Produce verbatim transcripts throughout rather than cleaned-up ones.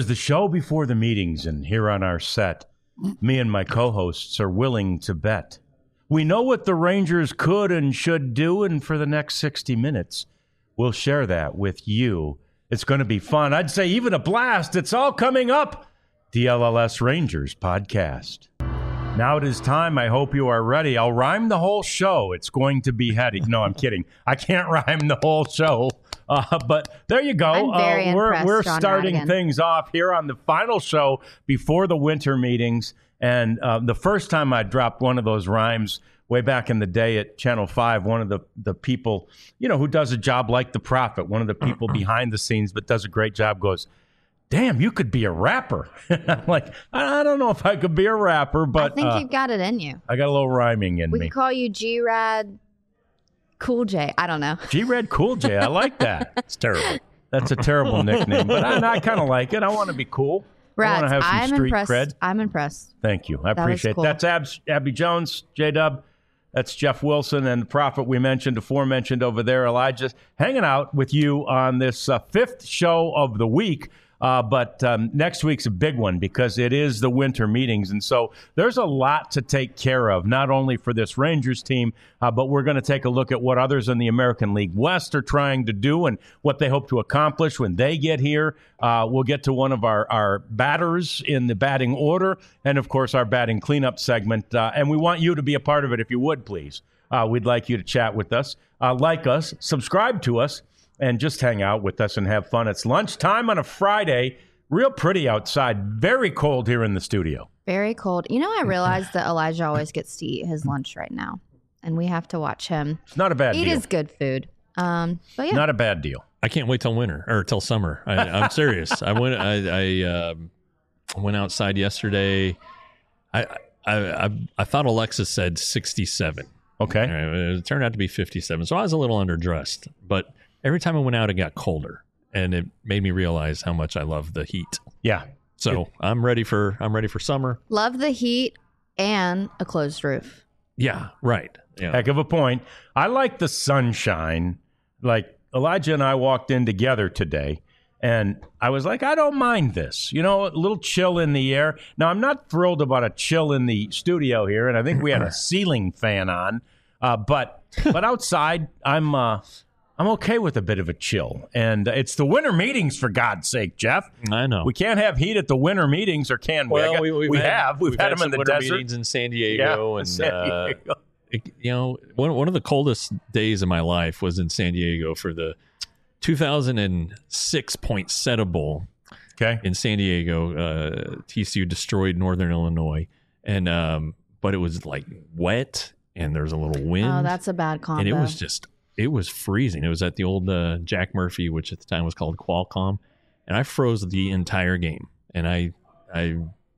is the show before the meetings, and here on our set, me and my co-hosts are willing to bet. We know what the Rangers could and should do, and for the next sixty minutes, we'll share that with you. It's going to be fun. I'd say even a blast. It's all coming up. The L L S Rangers podcast. Now it is time. I hope you are ready. I'll rhyme the whole show. It's going to be heady. No, I'm kidding. I can't rhyme the whole show. Uh, but there you go. I'm very uh, we're we're John starting Radigan. things off here on the final show before the winter meetings. And uh, the first time I dropped one of those rhymes way back in the day at Channel five, one of the, the people, you know, who does a job like the Prophet, one of the people behind the scenes but does a great job, goes, damn, you could be a rapper. I'm like, I don't know if I could be a rapper, but I think uh, you've got it in you. I got a little rhyming in We me. could call you G-Rad Cool J. I don't know. G-Red Cool J. I like that. It's terrible. That's a terrible nickname, but I, I kind of like it. I want to be cool. I want Rad, to have some I'm street impressed. cred. I'm impressed. Thank you. I That was appreciate cool. it. That's Abs, Abby Jones, J-Dub. That's Jeff Wilson and the Prophet we mentioned, aforementioned over there, Elijah, hanging out with you on this uh, fifth show of the week. Uh, but um, next week's a big one because it is the winter meetings. And so there's a lot to take care of, not only for this Rangers team, uh, but we're going to take a look at what others in the American League West are trying to do and what they hope to accomplish when they get here. Uh, we'll get to one of our, our batters in the batting order and, of course, our batting cleanup segment. Uh, and we want you to be a part of it if you would, please. Uh, we'd like you to chat with us, uh, like us, subscribe to us, and just hang out with us and have fun. It's lunchtime on a Friday. Real pretty outside. Very cold here in the studio. Very cold. You know, I realized that Elijah always gets to eat his lunch right now, and we have to watch him It's not a bad eat deal. his good food. Um, but yeah, Not a bad deal. I can't wait till winter or till summer. I, I'm serious. I went. I, I um, went outside yesterday. I, I I I thought Alexa said sixty-seven. Okay. It turned out to be fifty-seven. So I was a little underdressed, but every time I went out, it got colder, and it made me realize how much I love the heat. Yeah. So I'm ready for I'm ready for summer. love the heat and a closed roof. Yeah, right. Yeah. Heck of a point. I like the sunshine. Like Elijah and I walked in together today, and I was like, I don't mind this. You know, a little chill in the air. Now, I'm not thrilled about a chill in the studio here, and I think we had a ceiling fan on. Uh, but but outside, I'm uh, I'm okay with a bit of a chill. And it's the winter meetings, for God's sake, Jeff. I know. We can't have heat at the winter meetings, or can we? I Well, guess- we, we've we had, have. We've, had, them some in the winter desert. meetings in San Diego, Yeah, and San uh, Diego. it- you know, one one of the coldest days of my life was in San Diego for the two thousand six Poinsettia Bowl Okay. in San Diego. Uh, T C U destroyed Northern Illinois, and um, but it was like wet, and there's a little wind. Oh, that's a bad combo. and it was just it was freezing. It was at the old uh, Jack Murphy, which at the time was called Qualcomm, and I froze the entire game. And I I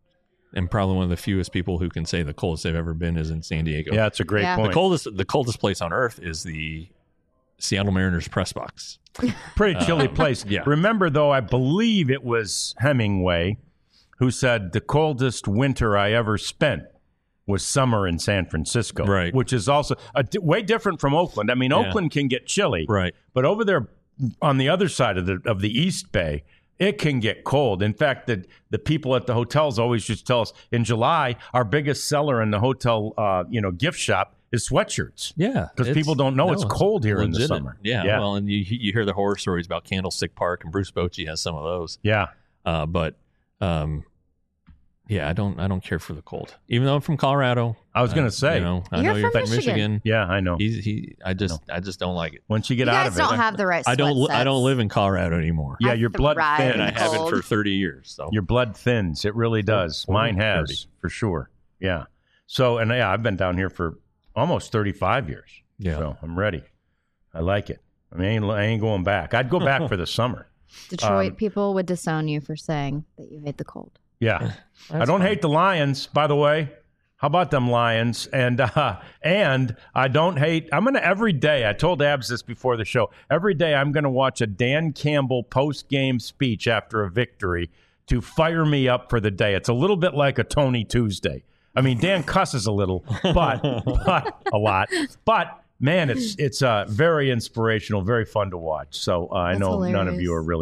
am probably one of the fewest people who can say the coldest they've ever been is in San Diego. Yeah, that's a great Yeah. the point. coldest the coldest place on earth is the Seattle Mariners press box. Pretty chilly place. yeah. Remember, though, I believe it was Hemingway who said the coldest winter I ever spent was summer in San Francisco. Right. Which is also a di- way different from Oakland. I mean, Yeah. Oakland can get chilly. Right. But over there on the other side of the of the East Bay, it can get cold. In fact, the, the people at the hotels always just tell us in July, our biggest seller in the hotel uh, you know, gift shop is sweatshirts. Yeah, Because it's- people don't know it's cold here in the legitimate. summer. Yeah, Yeah. well, and you you hear the horror stories about Candlestick Park, and Bruce Bochy has some of those. Yeah. Uh, but um, yeah, I don't I don't care for the cold, even though I'm from Colorado. I was going Uh, to say. you know, I You're know you're from from Michigan. Michigan. Yeah, I know. He's, he, I just, I just don't like it. Once you get you out guys of it. don't have the right I don't, li- sweat I don't sets. live in Colorado anymore. Yeah, I your blood thrive thins. in and I the haven't cold. for thirty years. So Your blood thins. It really does. Forty, Mine has, thirty. for sure. Yeah. So, and yeah, I've been down here for almost thirty-five years. Yeah. So I'm ready. I like it. I mean, I ain't, I ain't going back. I'd go back for the summer. Detroit Um, people would disown you for saying that you hate the cold. Yeah. I don't hate the Lions, by the way. How about them Lions? And uh, and I don't hate. I'm gonna every day. I told Abs this before the show. Every day I'm gonna watch a Dan Campbell post game speech after a victory to fire me up for the day. It's a little bit like a Tony Tuesday. I mean, Dan cusses a little, but but a lot. But man, it's it's uh, very inspirational, very fun to watch. So uh, I That's know none of hilarious. you are really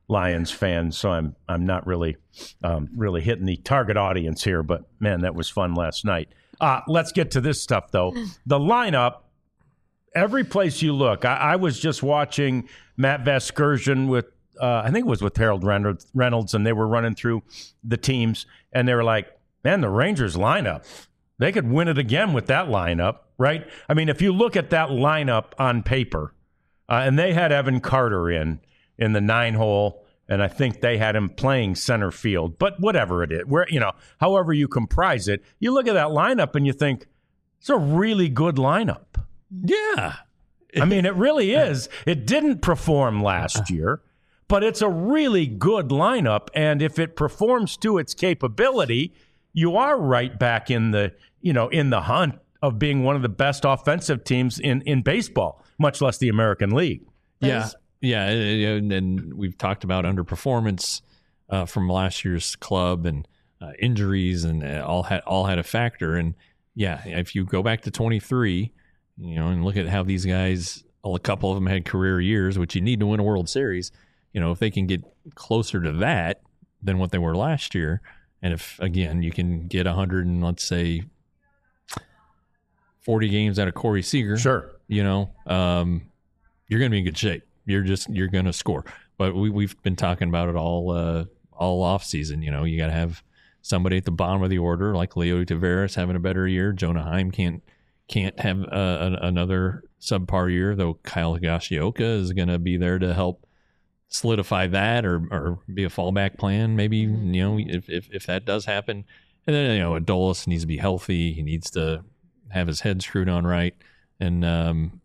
Lions fan, so I'm I'm not really um, really hitting the target audience here. But man, that was fun last night. Uh, let's get to this stuff though. The lineup. Every place you look, I, I was just watching Matt Vasgersian with. Uh, I think it was with Harold Reynolds, and they were running through the teams, and they were like, man, the Rangers lineup, they could win it again with that lineup, right? I mean, if you look at that lineup on paper, uh, and they had Evan Carter in, in the nine hole, and I think they had him playing center field, but whatever it is, where, you know, however you comprise it, you look at that lineup and you think, it's a really good lineup. Yeah. I mean, it really is. It didn't perform last year. But it's a really good lineup, and if it performs to its capability, you are right back in the you know in the hunt of being one of the best offensive teams in, in baseball, much less the American League. Yeah, yeah, and, and we've talked about underperformance uh, from last year's club and uh, injuries, and all had all had a factor. And yeah, if you go back to twenty-three, you know, and look at how these guys, well, a couple of them had career years, which you need to win a World Series. You know, if they can get closer to that than what they were last year, and if, again, you can get one hundred and, let's say, forty games out of Corey Seager, sure, you know, um, you're going to be in good shape. You're just, you're going to score. But we, we've been talking about it all uh, all off season. You know, you got to have somebody at the bottom of the order, like Leo Taveras having a better year. Jonah Heim can't can't have uh, an, another subpar year, though Kyle Higashioka is going to be there to help solidify that or or be a fallback plan, maybe, you know, if, if if that does happen. And then, you know, Adolis needs to be healthy. He needs to have his head screwed on right. And um,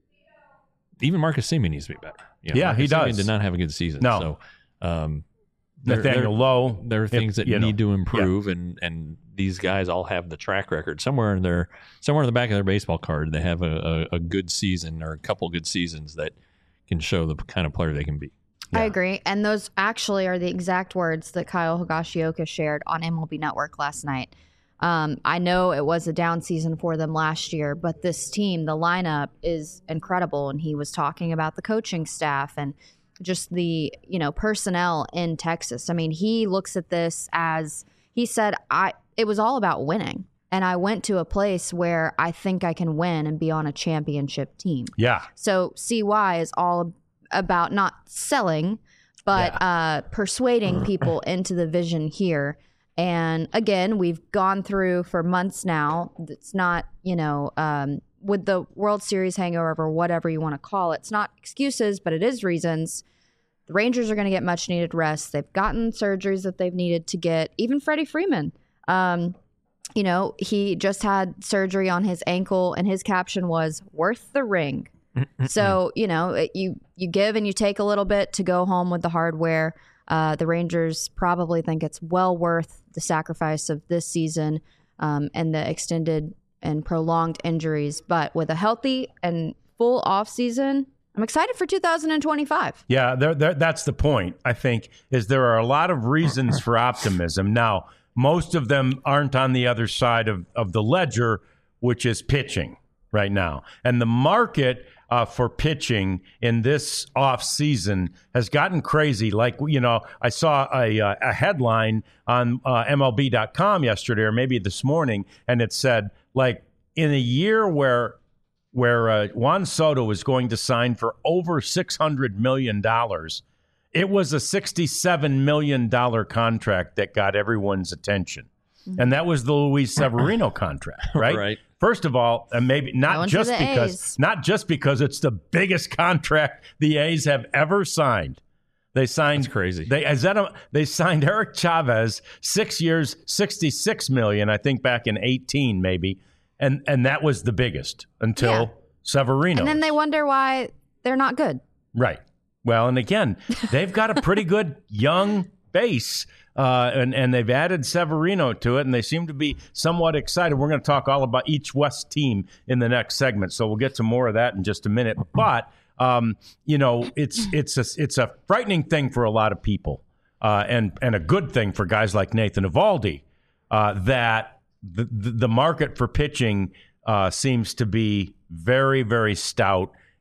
even Marcus Semien needs to be better. You know, yeah, Marcus he does. Semien did not have a good season. No. So, um, there, Nathaniel there, Lowe. There are things if, that need know, to improve, yeah. and, and these guys all have the track record. Somewhere in their, somewhere in the back of their baseball card, they have a, a, a good season or a couple good seasons that can show the kind of player they can be. Yeah. I Yeah. agree. And those actually are the exact words that Kyle Higashioka shared on M L B Network last night. Um, I know it was a down season for them last year, but this team, the lineup is incredible. And he was talking about the coaching staff and just the, you know, personnel in Texas. I mean, he looks at this as, he said, I it was all about winning. And I went to a place where I think I can win and be on a championship team. Yeah. So C Y is all about not selling, but Yeah. uh, persuading people into the vision here. And again, we've gone through for months now. It's not, you know, um, with the World Series hangover or whatever you want to call it. It's not excuses, but it is reasons. The Rangers are going to get much needed rest. They've gotten surgeries that they've needed to get. Even Freddie Freeman, um, you know, he just had surgery on his ankle, and his caption was "worth the ring." So, you know, it, you you give and you take a little bit to go home with the hardware. Uh, the Rangers probably think it's well worth the sacrifice of this season um, and the extended and prolonged injuries. But with a healthy and full off season, I'm excited for two thousand twenty-five. Yeah, there, there, that's the point, I think, is there are a lot of reasons for optimism. Now, most of them aren't on the other side of, of the ledger, which is pitching right now. And the market uh, for pitching in this off season has gotten crazy. Like, you know, I saw a, a headline on uh, M L B dot com yesterday, or maybe this morning, and it said, like, in a year where where uh, Juan Soto was going to sign for over six hundred million dollars, it was a sixty-seven million dollars contract that got everyone's attention. Mm-hmm. And that was the Luis Severino contract, right? Right. First of all, and maybe not Going just to the because A's. not just because it's the biggest contract the A's have ever signed. They signed That's crazy. They is that a, they signed Eric Chavez, six years, sixty-six million, I think back in eighteen maybe. And and that was the biggest until Yeah. Severino. And then they wonder why they're not good. Right. Well, and again, they've got a pretty good young base, uh, and, and they've added Severino to it, and they seem to be somewhat excited. We're going to talk all about each West team in the next segment, so we'll get to more of that in just a minute. But, um, you know, it's it's a, it's a frightening thing for a lot of people, uh, and, and a good thing for guys like Nathan Eovaldi, uh, that the, the, the market for pitching uh, seems to be very, very stout.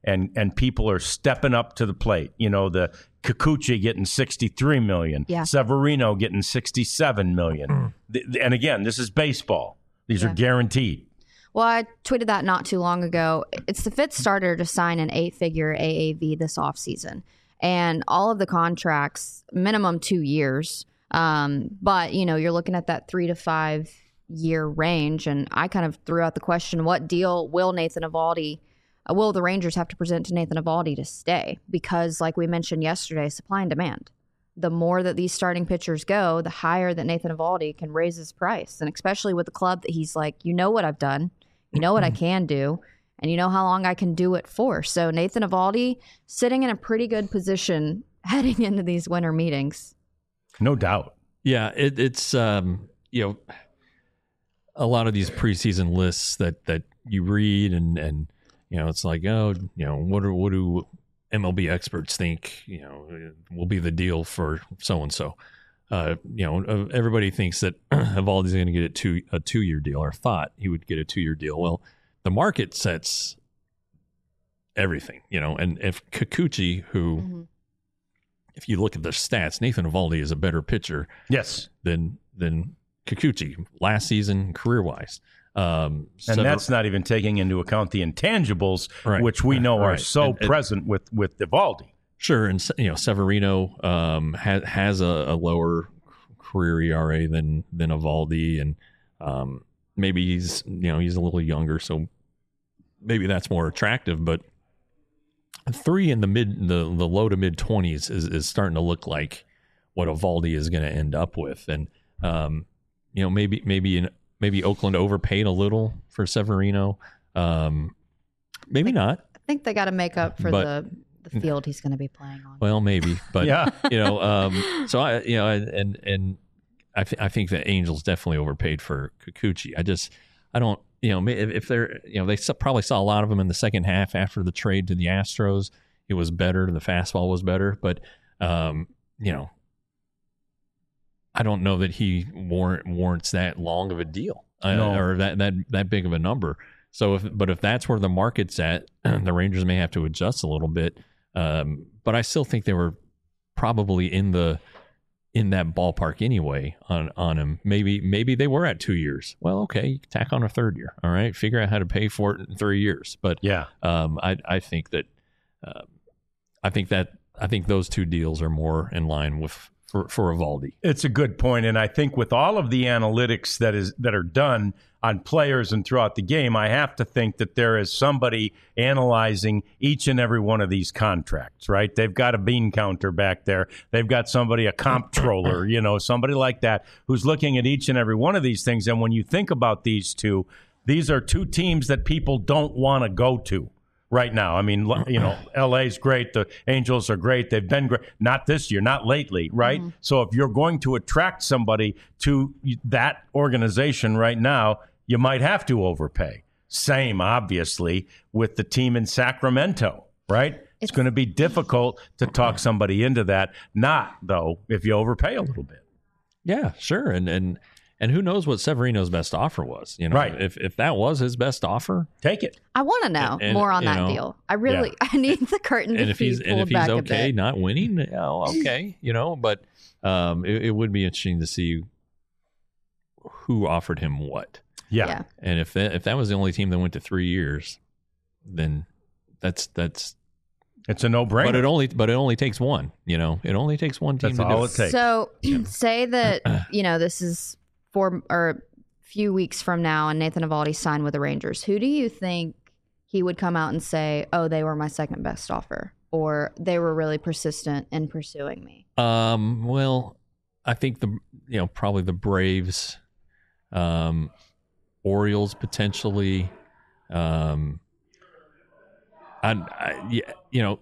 and and people are stepping up to the plate. You know, the Kikuchi getting sixty-three million dollars, Yeah. Severino getting sixty-seven million dollars. Th- and again, this is baseball. These Yeah. are guaranteed. Well, I tweeted that not too long ago. It's the fifth starter to sign an eight-figure A A V this offseason. And all of the contracts, minimum two years. Um, but, you know, you're looking at that three to five year range. And I kind of threw out the question, what deal will Nathan Eovaldi, uh, will the Rangers have to present to Nathan Eovaldi to stay? Because like we mentioned yesterday, supply and demand. The more that these starting pitchers go, the higher that Nathan Eovaldi can raise his price. And especially with the club that he's like, you know what I've done. You know what I can do, and you know how long I can do it for. So Nathan Eovaldi sitting in a pretty good position heading into these winter meetings. No doubt. Yeah, it, it's um, you know, a lot of these preseason lists that that you read, and and you know, it's like, oh, you know, what do what do M L B experts think? You know, will be the deal for so and so. Uh, you know, everybody thinks that Eovaldi's going to get a two a two year deal, or thought he would get a two year deal. Well, the market sets everything, you know. And if Kikuchi, who, mm-hmm. if you look at the stats, Nathan Eovaldi is a better pitcher, yes, than than Kikuchi last season, career wise. Um, and Sever- that's not even taking into account the intangibles, right. which we know right. are so and, and, present with with Eovaldi. Sure, and you know Severino um, has has a, a lower career E R A than than Eovaldi, and um, maybe he's you know he's a little younger, so maybe that's more attractive. But three in the mid the, the low to mid twenties is, is starting to look like what Eovaldi is going to end up with, and um, you know maybe maybe in, maybe Oakland overpaid a little for Severino, um, maybe I think, not. I think they got to make up for But, the. the field he's going to be playing on. Well, maybe, but yeah. you know, um, so I, you know, and and I th- I think the Angels definitely overpaid for Kikuchi. I just, I don't, you know, if, if they're, you know, they probably saw a lot of him in the second half after the trade to the Astros. It was better, the fastball was better, but um, you know, I don't know that he warrant, warrants that long of a deal no. uh, or that that that big of a number. So, if but if that's where the market's at, the Rangers may have to adjust a little bit. Um, but I still think they were probably in the in that ballpark anyway on, on him. Maybe maybe they were at two years. Well, okay, you can tack on a third year. All right, figure out how to pay for it in three years. But yeah, um, I I think that uh, I think that I think those two deals are more in line with for for Eovaldi. It's a good point, and I think with all of the analytics that is that are done on players and throughout the game, I have to think that there is somebody analyzing each and every one of these contracts, right? They've got a bean counter back there. They've got somebody, a comptroller, you know, somebody like that who's looking at each and every one of these things. And when you think about these two, these are two teams that people don't want to go to right now. I mean, you know, L A's great. The Angels are great. They've been great. Not this year, not lately, right? Mm-hmm. So if you're going to attract somebody to that organization right now, you might have to overpay. Same, obviously, with the team in Sacramento, right? It's, it's going to be difficult to talk somebody into that. Not, though, if you overpay a little bit. Yeah, sure. And and and who knows what Severino's best offer was? You know, right. If if that was his best offer, take it. I want to know and, and, more on that know, deal. I really, yeah. I need the curtain to and if be he's pulled and if he's back okay a bit. not winning, you know, okay, you know. But um, it, it would be interesting to see who offered him what. Yeah. yeah. And if that if that was the only team that went to three years, then that's that's it's a no-brainer. But it only but it only takes one, you know. It only takes one team that's to all do it takes. So say that, you know, this is four or a few weeks from now and Nathan Eovaldi signed with the Rangers. Who do you think he would come out and say, "Oh, they were my second best offer," or "They were really persistent in pursuing me"? Um, well, I think the you know, probably the Braves, um Orioles potentially, um, I, I, yeah, you know,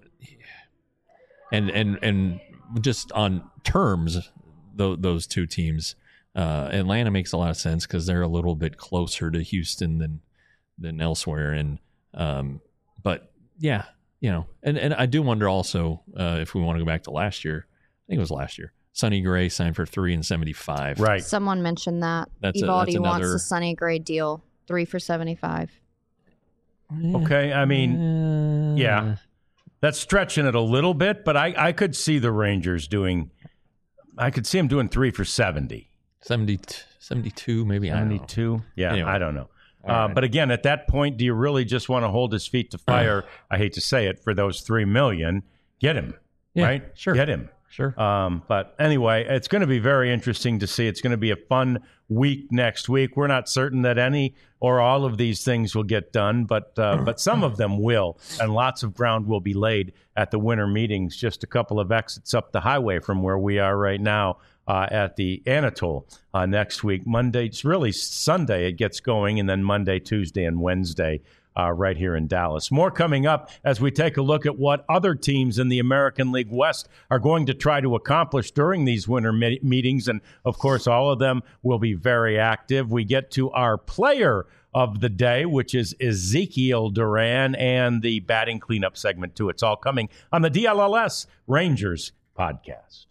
and and and just on terms, th- those two teams, uh, Atlanta makes a lot of sense because they're a little bit closer to Houston than than elsewhere, and um, but yeah, you know, and and I do wonder also uh, if we want to go back to last year, I think it was last year. Sonny Gray signed for three and seventy-five. Right. Someone mentioned that That's a- Eovaldi that's wants another- the Sonny Gray deal, three for seventy-five. Okay, I mean, Uh, yeah, that's stretching it a little bit, but I, I could see the Rangers doing. I could see them doing three for seventy. seventy, seventy-two, maybe. seventy-two? Yeah, Anyway. I don't know. Uh, right. But again, at that point, do you really just want to hold his feet to fire? I hate to say it, for those three million, get him, Yeah, right? sure. Get him. Sure. Um, but anyway, it's going to be very interesting to see. It's going to be a fun week next week. We're not certain that any or all of these things will get done, but uh, but some of them will, and lots of ground will be laid at the winter meetings. Just a couple of exits up the highway from where we are right now uh, at the Anatole uh, next week. Monday, it's really Sunday it gets going, and then Monday, Tuesday, and Wednesday. Uh, right here in Dallas. More coming up as we take a look at what other teams in the American League West are going to try to accomplish during these winter me- meetings. And, of course, all of them will be very active. We get to our player of the day, which is Ezekiel Duran, and the batting cleanup segment, too. It's all coming on the D L L S Rangers podcast.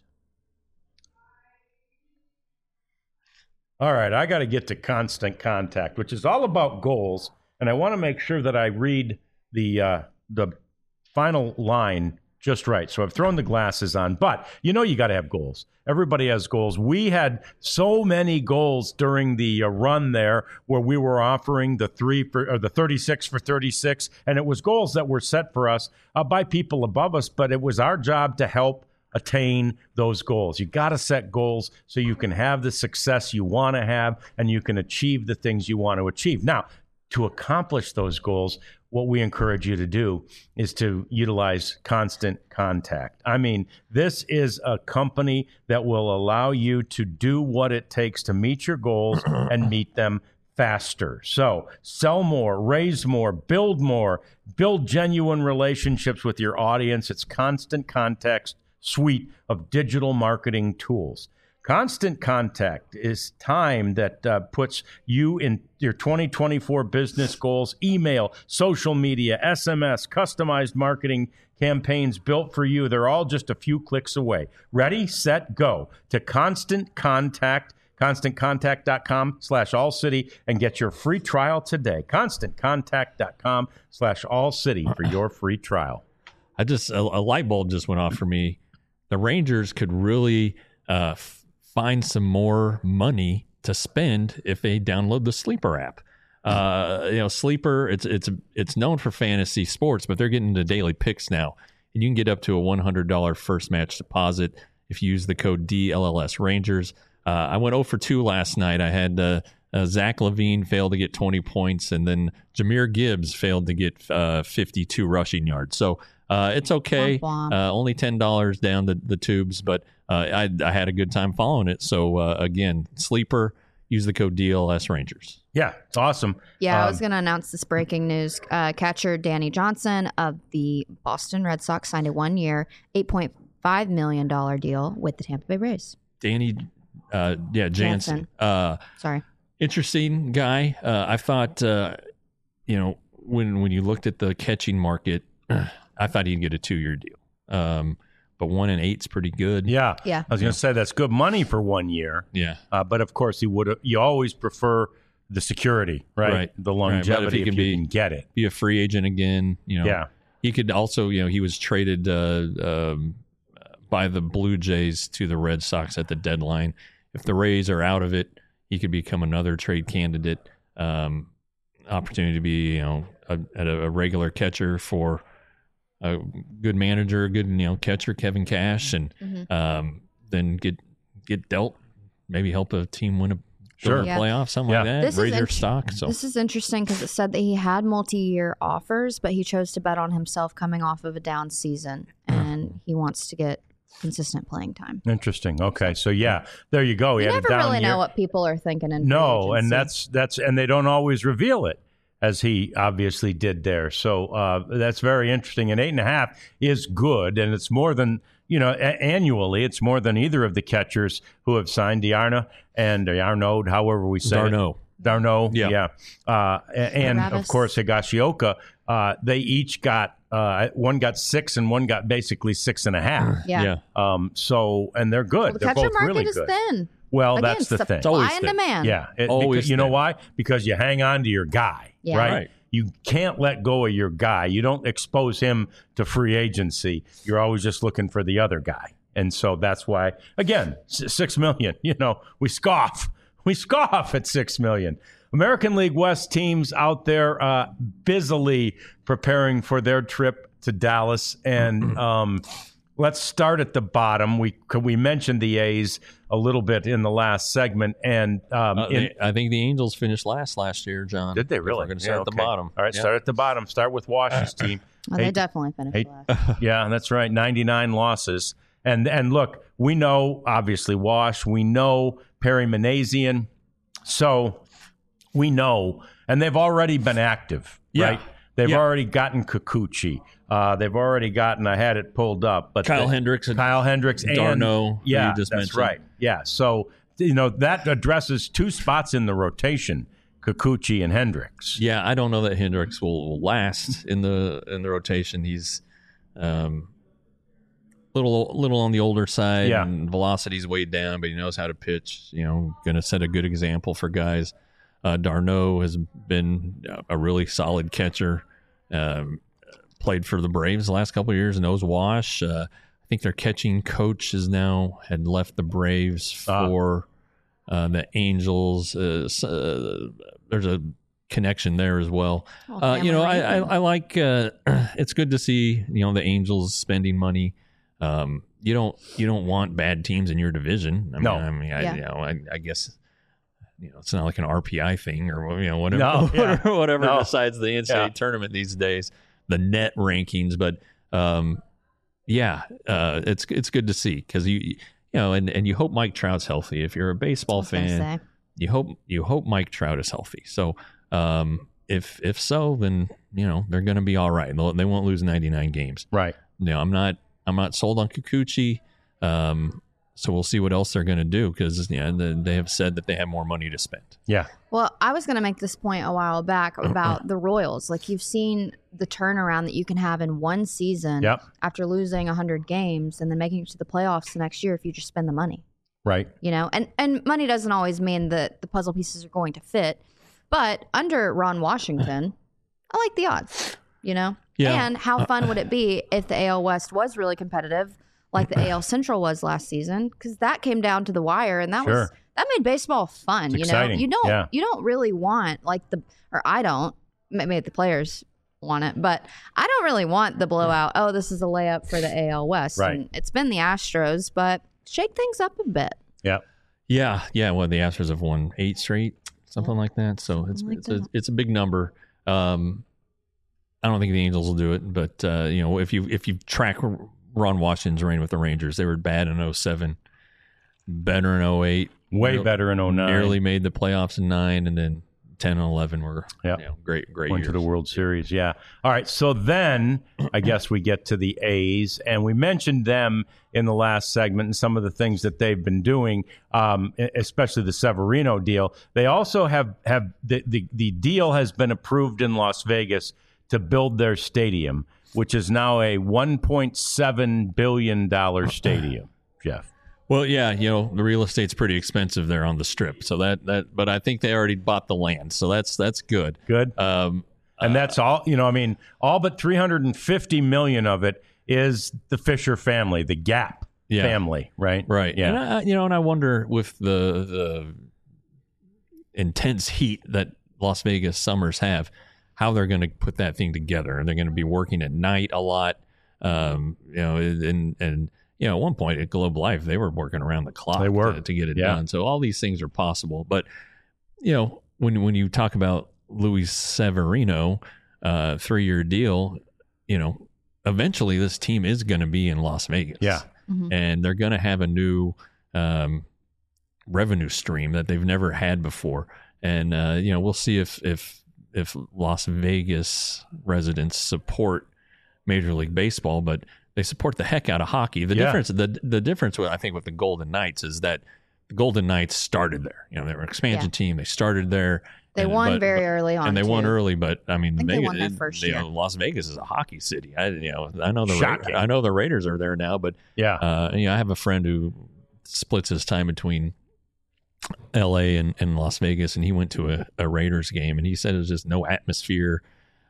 All right, I got to get to Constant Contact, which is all about goals. And I want to make sure that I read the uh, the final line just right. So I've thrown the glasses on. But you know you got to have goals. Everybody has goals. We had so many goals during the uh, run there where we were offering the three for or the thirty-six for thirty-six. And it was goals that were set for us uh, by people above us. But it was our job to help attain those goals. You got to set goals so you can have the success you want to have and you can achieve the things you want to achieve. Now, to accomplish those goals, what we encourage you to do is to utilize Constant Contact. I mean, this is a company that will allow you to do what it takes to meet your goals and meet them faster. So sell more, raise more, build more, build genuine relationships with your audience. It's Constant Contact's suite of digital marketing tools. Constant Contact is time that uh, puts you in your twenty twenty-four business goals, email, social media, S M S, customized marketing campaigns built for you. They're all just a few clicks away. Ready, set, go to Constant Contact, ConstantContact.com slash All City and get your free trial today. ConstantContact.com slash All City for your free trial. I just, a, a light bulb just went off for me. The Rangers could really uh, f- find some more money to spend if they download the Sleeper app. Uh, you know, Sleeper, it's it's it's known for fantasy sports, but they're getting into daily picks now. And you can get up to a one hundred dollars first match deposit if you use the code D L L S Rangers. Uh, I went oh for two last night. I had uh, uh, Zach Levine failed to get twenty points, and then Jahmyr Gibbs failed to get uh, fifty-two rushing yards. So uh, it's okay. Womp womp. Uh, only ten dollars down the, the tubes, but uh, I, I had a good time following it. So, uh, again, Sleeper, use the code D L S Rangers. Yeah, it's awesome. Yeah, Um, I was going to announce this breaking news. Uh, catcher Danny Johnson of the Boston Red Sox signed a one-year, eight point five million dollars deal with the Tampa Bay Rays. Danny, uh, yeah, Jansen. Jansen. Uh, Sorry. interesting guy. Uh, I thought, uh, you know, when when you looked at the catching market, I thought he'd get a two-year deal. Um, but one and eight's pretty good. Yeah. Yeah. I was going to say that's good money for one year. Yeah. Uh, but of course, you would. You always prefer the security, right? Right. The Right, but if longevity, he if, can you be- can get it. Be a free agent again. You know. Yeah. He could also, you know, he was traded uh, um, by the Blue Jays to the Red Sox at the deadline. If the Rays are out of it, he could become another trade candidate. Um, opportunity to be, you know, a, a, a regular catcher for a good manager, a good, you know, catcher, Kevin Cash, and Mhm. um, then get get dealt, maybe help a team win a, Sure. a Yeah. playoff, something Yeah. like that. This is raise their int- stock. So This is interesting because it said that he had multi-year offers, but he chose to bet on himself coming off of a down season, and he wants to get consistent playing time. Interesting. Okay. So yeah, there you go. He You had never a down really year. know what people are thinking in free No, and agency. that's that's and they don't always reveal it, as he obviously did there. So uh, that's very interesting. And eight and a half is good, and it's more than you know a- annually. It's more than either of the catchers who have signed, D'Arnaud and Arnaud, however we say it. Darno. Darno, Yeah. yeah, uh, a- and of Travis. course Higashioka. Uh, they each got uh, one got six, and one got basically six and a half. yeah. yeah. Um, so and they're good. Well, the they're catcher both market really is good. thin. Well, Again, that's the supply thing. It's always and thin. demand. Yeah, it, Always because, you know thin. why? Because you hang on to your guy, Yeah. right? Right. you can't let go of your guy. You don't expose him to free agency. You're always just looking for the other guy. And so that's why, again, six million, you know, we scoff. We scoff at six million. American League West teams out there uh, busily preparing for their trip to Dallas. And um, let's start at the bottom. We we mentioned the A's a little bit in the last segment. And um, uh, in, they, I think the Angels finished last last year, John. Did they really? We're going to start Yeah, at the okay. bottom. All right, Yeah. start at the bottom. Start with Wash's team. Well, Hey- they definitely finished hey- last. Yeah, that's right. ninety-nine losses. And and look, we know, obviously, Wash. We know Perry Manazian. So we know. And they've already been active, Yeah. right? They've Yeah. already gotten Kikuchi. Uh, they've already gotten, I had it pulled up. but Kyle they- Hendricks and Kyle Hendricks and Darno, who Yeah, you just that's mentioned. right. Yeah. So, you know, that addresses two spots in the rotation, Kikuchi and Hendricks. Yeah, I don't know that Hendricks will, will last in the in the rotation. He's um, little little on the older side, Yeah. and velocity's way down, but he knows how to pitch. You know, going to set a good example for guys. Uh, Darno has been a really solid catcher. Um, played for the Braves the last couple of years. Knows Wash. Uh, I think their catching coach is now had left the Braves Ah. for uh, the Angels. Uh, s- uh, there's a connection there as well. Well, Uh, you know, I, I, family. I like. Uh, it's good to see you know the Angels spending money. Um, you don't you don't want bad teams in your division. I mean, No. I mean, I, Yeah. you know, I, I guess you know it's not like an R P I thing or you know whatever No, yeah. whatever, whatever No. decides the N C double A Yeah. tournament these days, the net rankings. But um, yeah, uh, it's it's good to see because you you know and, and you hope Mike Trout's healthy. If you're a baseball I was gonna fan, say. you hope you hope Mike Trout is healthy. So um, if if so, then you know they're going to be all right. They'll, they won't lose ninety-nine games. Right. No, I'm not. I'm not sold on Kikuchi. Um, so we'll see what else they're going to do because yeah, the, they have said that they have more money to spend. Yeah. Well, I was going to make this point a while back about the Royals. Like, you've seen the turnaround that you can have in one season Yep. after losing one hundred games and then making it to the playoffs the next year if you just spend the money. Right. You know, and, and money doesn't always mean that the puzzle pieces are going to fit. But under Ron Washington, I like the odds, you know? Yeah. And how fun would it be if the A L West was really competitive like the A L Central was last season? Because that came down to the wire, and that was Sure. that made baseball fun. It's you know, exciting. you don't Yeah. you don't really want like the or I don't maybe the players want it, but I don't really want the blowout. Oh, this is a layup for the A L West. Right. And it's been the Astros, but shake things up a bit. Yeah. Yeah, yeah. Well, the Astros have won eight straight, something like that. So it's like it's a that. it's a big number. Um, I don't think the Angels will do it, but uh, you know, if you if you track Ron Washington's reign with the Rangers, they were bad in oh seven, better in oh eight, Way nearly- better in oh nine. nearly made the playoffs in nine, and then ten and eleven were Yeah. you know, great great Went years. to the World Series, yeah. All right, so then I guess we get to the A's, and we mentioned them in the last segment and some of the things that they've been doing, um, especially the Severino deal. They also have have the, the the deal has been approved in Las Vegas to build their stadium, which is now a one point seven billion dollars stadium. Jeff, Well, yeah, you know the real estate's pretty expensive there on the Strip, so that that. But I think they already bought the land, so that's that's good. good. Um, And that's all, you know, I mean, all but three hundred fifty million of it is the Fisher family, the Gap Yeah. family, right? Right. Yeah. And I, you know, and I wonder with the the intense heat that Las Vegas summers have, how they're going to put that thing together. And they're going to be working at night a lot. Um, you know, and and you know, at one point at Globe Life, they were working around the clock They were. to, to get it Yeah. done. So all these things are possible. But you know, when when you talk about Luis Severino, uh, three year deal, you know, eventually this team is going to be in Las Vegas. Yeah. Mhm. And they're going to have a new um, revenue stream that they've never had before. And uh, you know, we'll see if if if Las Vegas residents support Major League Baseball, but they support the heck out of hockey. The Yeah. difference, the the difference, with, I think, with the Golden Knights is that the Golden Knights started there. You know, they were an expansion Yeah. team. They started there. They and- won but- very but- early on, and they won too. early. But I mean, I think they Vegas, won their first you year. know, Las Vegas is a hockey city. I you know I know the Ra- Shocking. I know the Raiders are there now, but Yeah. uh, you know, I have a friend who splits his time between L A and, and Las Vegas, and he went to a, a Raiders game, and he said it was just no atmosphere.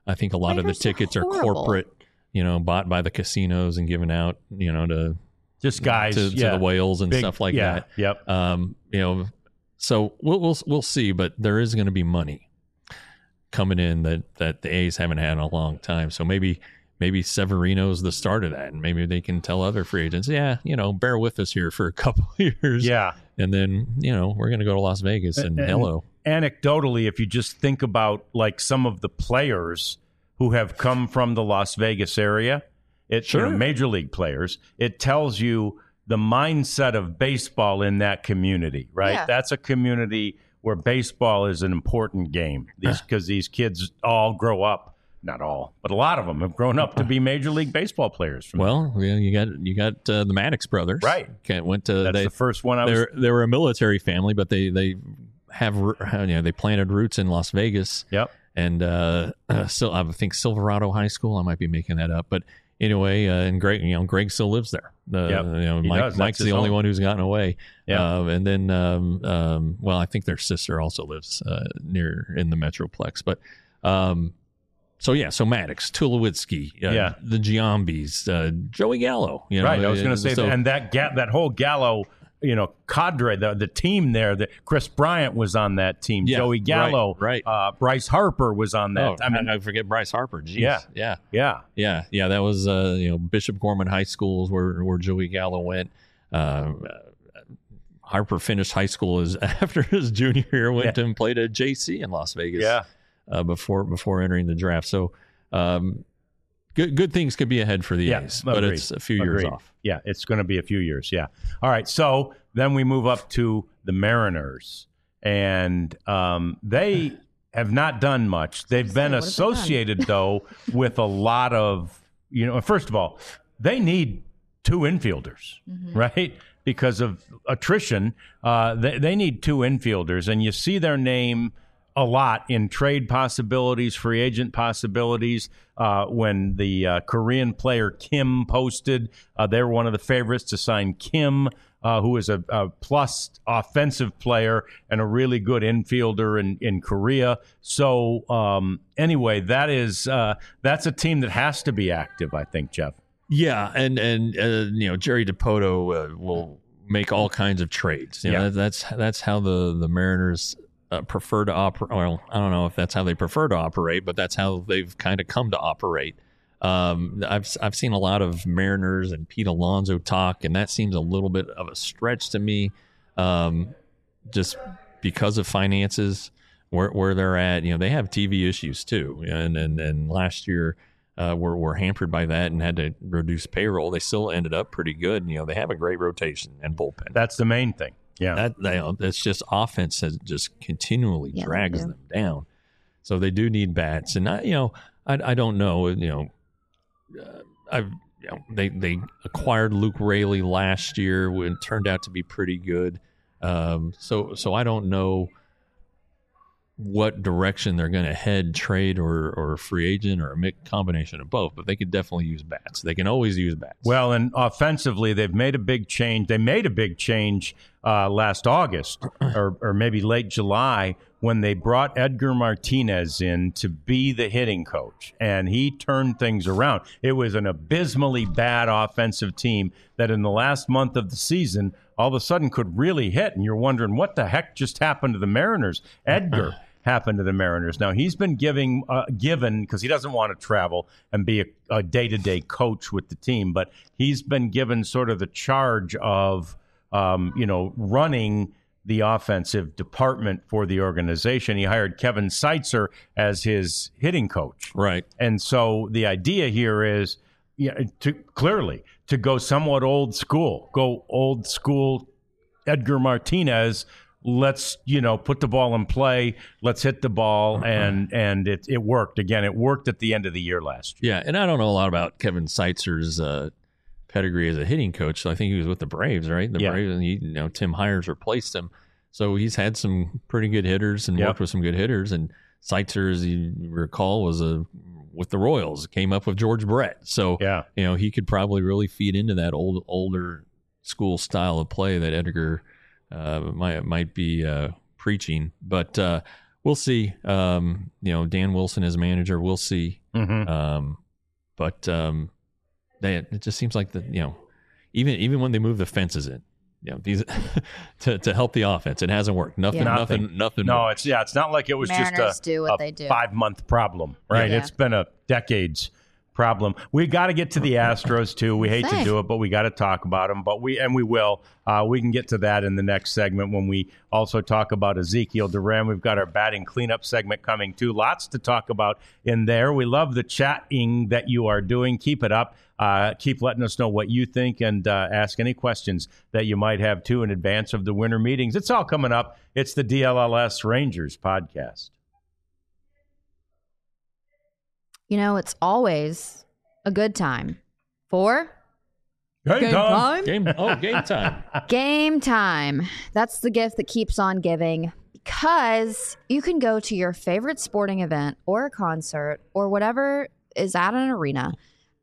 I think a lot Players of the tickets are, are horrible. corporate, you know, bought by the casinos and given out, you know, to Just guys, to, yeah. to the whales and Big- stuff like yeah, that. Yep. Um, you know, so we'll we'll we'll see, but there is going to be money coming in that that the A's haven't had in a long time. So maybe maybe Severino's the start of that, and maybe they can tell other free agents, yeah, you know, bear with us here for a couple of years, Yeah. and then you know we're going to go to Las Vegas and, And- hello. Anecdotally, if you just think about like some of the players who have come from the Las Vegas area, it Sure. you know, major league players, it tells you the mindset of baseball in that community, right? Yeah. That's a community where baseball is an important game. These because these kids all grow up, not all, but a lot of them have grown up to be major league baseball players. From Well, yeah, you got you got uh, the Maddox brothers, Right. Okay, went to that's they the first one I was. they they were a military family, but they they have you know they planted roots in Las Vegas. Yep. And uh, uh, so I think Silverado High School. I might be making that up, but anyway, uh, and Greg, you know, Greg still lives there. Uh, Yep, you know, he Mike, does. That's Mike's his the only home. one who's gotten away. Yeah. Uh, and then, um, um, well, I think their sister also lives uh, near in the Metroplex. But um, so yeah, so Maddox, Tulowitzki, uh, Yeah. the Giambis, uh, Joey Gallo. You know, Right, I was going uh, to say so- that, and that ga- that whole Gallo, you know, cadre, the the team there. That Chris Bryant was on that team. Yeah, Joey Gallo, right, right. Uh, Bryce Harper was on that. Oh, I mean, I forget Bryce Harper. Jeez. Yeah. yeah. yeah, Yeah, yeah, that was uh, you know Bishop Gorman High School is where where Joey Gallo went. Uh, Harper finished high school as after his junior year, went Yeah. and played at J C in Las Vegas. yeah. uh, before before entering the draft. So, um, good good things could be ahead for the Yeah, A's, but agreed. it's a few years Agreed. off. Yeah, it's going to be a few years. Yeah. All right. So then we move up to the Mariners, and um, they have not done much. They've been what have they done? associated, though, with a lot of, you know, first of all, they need two infielders, right? Because of attrition, uh, they, they need two infielders, and you see their name a lot in trade possibilities, free agent possibilities. Uh, when the uh, Korean player Kim posted, uh, they were one of the favorites to sign Kim, uh, who is a, a plus offensive player and a really good infielder in, in Korea. So um, anyway, that is uh, that's a team that has to be active, I think, Jeff. Yeah, and and uh, you know Jerry Dipoto uh, will make all kinds of trades. You know, Yeah. that, that's that's how the the Mariners uh, prefer to operate. Well, I don't know if that's how they prefer to operate, but that's how they've kind of come to operate. Um, I've I've seen a lot of Mariners and Pete Alonso talk, and that seems a little bit of a stretch to me, um, just because of finances where where they're at. You know, they have T V issues too, and and and last year. Uh, were, were hampered by that and had to reduce payroll. They still ended up pretty good. You know, they have a great rotation and bullpen. That's the main thing. Yeah. That they, it's just offense that just continually Yeah, they drags do. them down. So they do need bats. And I, you know, I, I don't know. You know, uh, I've you know, they they acquired Luke Raley last year. It turned out to be pretty good. Um, so so I don't know what direction they're going to head, trade or or free agent or a mix combination of both, but they could definitely use bats. They can always use bats. Well, and offensively, they've made a big change. They made a big change uh, last August or, or maybe late July when they brought Edgar Martinez in to be the hitting coach, and he turned things around. It was an abysmally bad offensive team that in the last month of the season all of a sudden could really hit, and you're wondering what the heck just happened to the Mariners. Edgar happened to the Mariners. Now, he's been giving uh, given because he doesn't want to travel and be a, a day-to-day coach with the team, but he's been given sort of the charge of, um, you know, running the offensive department for the organization. He hired Kevin Seitzer as his hitting coach. Right. And so the idea here is, yeah, to clearly to go somewhat old school, go old school Edgar Martinez. Let's, you know, put the ball in play. Let's hit the ball. And and it, it worked. Again, it worked at the end of the year last year. Yeah, and I don't know a lot about Kevin Seitzer's uh, pedigree as a hitting coach. So I think he was with the Braves, right? The Yeah. Braves, and he, you know, Tim Hires replaced him. So he's had some pretty good hitters and Yep. worked with some good hitters. And Seitzer, as you recall, was a with the Royals. Came up with George Brett. So Yeah. you know, he could probably really feed into that old older school style of play that Edgar uh, might might be uh, preaching. But uh, we'll see. Um, you know, Dan Wilson as manager, we'll see. Mm-hmm. Um, but um, they, it just seems like the you know, even even when they move the fences in, you know, these to to help the offense, it hasn't worked. Nothing, Yeah. nothing, Nothing. nothing. No, works. it's yeah, it's not like it was Mariners just do a, what a they do. five month problem, right? Yeah. It's been a decades problem. We got to get to the Astros too. We hate to Say. do it, but we got to talk about them. But we and we will. Uh, we can get to that in the next segment when we also talk about Ezekiel Duran. We've got our batting cleanup segment coming too. Lots to talk about in there. We love the chatting that you are doing. Keep it up. Uh, keep letting us know what you think and uh, ask any questions that you might have too in advance of the winter meetings. It's all coming up. It's the D L L S Rangers podcast. You know, it's always a good time for Game time. Game. Oh, game time. game time. That's the gift that keeps on giving, because you can go to your favorite sporting event or a concert or whatever is at an arena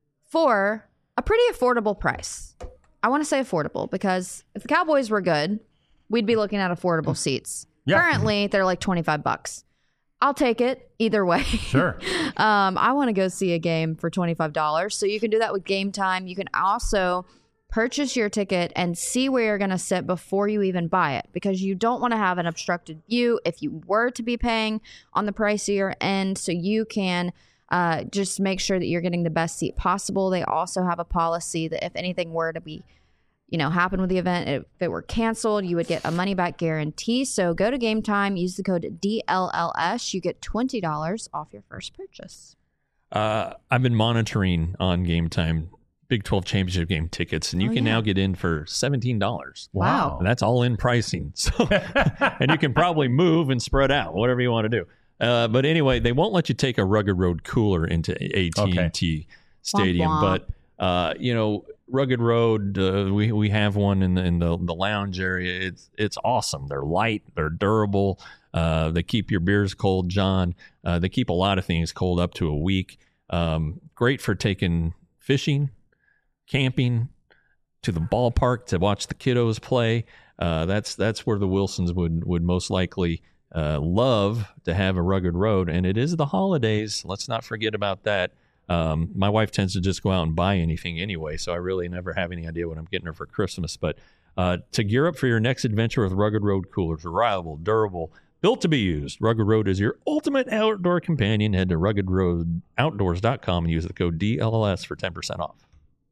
for a pretty affordable price. I want to say affordable because if the Cowboys were good, we'd be looking at affordable seats. Yeah. Currently, they're like twenty-five bucks. I'll take it either way. Sure. um, I want to go see a game for twenty-five dollars. So you can do that with Game Time. You can also purchase your ticket and see where you're going to sit before you even buy it, because you don't want to have an obstructed view if you were to be paying on the pricier end. So you can uh, just make sure that you're getting the best seat possible. They also have a policy that if anything were to be you know, happen with the event, if it were canceled, you would get a money back guarantee. So go to Game Time, use the code D L L S. You get twenty dollars off your first purchase. Uh, I've been monitoring on Game Time Big twelve championship game tickets, and you Oh, can yeah. now get in for seventeen dollars. Wow. And that's all in pricing. So, and you can probably move and spread out, whatever you want to do. Uh, but anyway, they won't let you take a Rugged Road cooler into A T and T Stadium. Womp womp. But, uh, you know, Rugged Road, uh, we we have one in the in the, the lounge area. It's it's awesome. They're light, they're durable. Uh, they keep your beers cold, John. Uh, they keep a lot of things cold up to a week. Um, great for taking fishing, camping, to the ballpark to watch the kiddos play. Uh, that's that's where the Wilsons would would most likely uh, love to have a Rugged Road. And it is the holidays. Let's not forget about that. Um, my wife tends to just go out and buy anything anyway, so I really never have any idea what I'm getting her for Christmas. But uh, to gear up for your next adventure with Rugged Road coolers, reliable, durable, built to be used, Rugged Road is your ultimate outdoor companion. Head to rugged road outdoors dot com and use the code D L L S for ten percent off.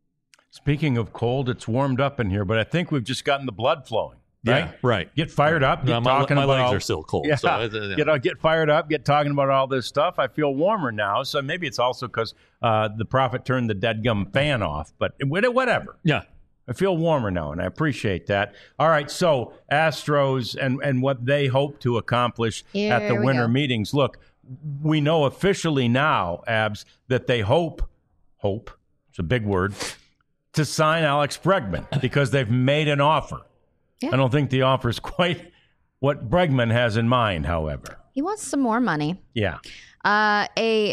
Speaking of cold, it's warmed up in here, but I think we've just gotten the blood flowing. Right? Yeah, right. Get fired up. Get No, my talking my about legs all, are still cold. Yeah, So, uh, yeah. Get, uh, get fired up. Get talking about all this stuff. I feel warmer now. So maybe it's also because uh, the prophet turned the deadgum fan off. But whatever. Yeah. I feel warmer now, and I appreciate that. All right, so Astros and, and what they hope to accomplish Here at the we winter go. meetings. Look, we know officially now, Abs, that they hope, hope, it's a big word, to sign Alex Bregman because they've made an offer. Yeah. I don't think the offer is quite what Bregman has in mind, however. He wants some more money. Yeah. Uh, a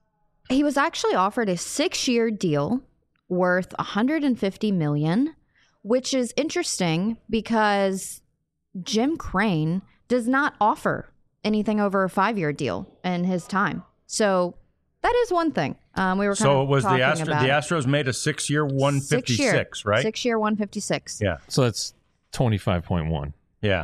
he was actually offered a six-year deal worth one hundred fifty million dollars, which is interesting because Jim Crane does not offer anything over a five-year deal in his time. So that is one thing. Um, we were kind So of it was the talking Astros. about The it. Astros made a six-year, one fifty-six, Six-year, right? Six-year, one fifty-six. Yeah. So that's twenty-five point one. Yeah.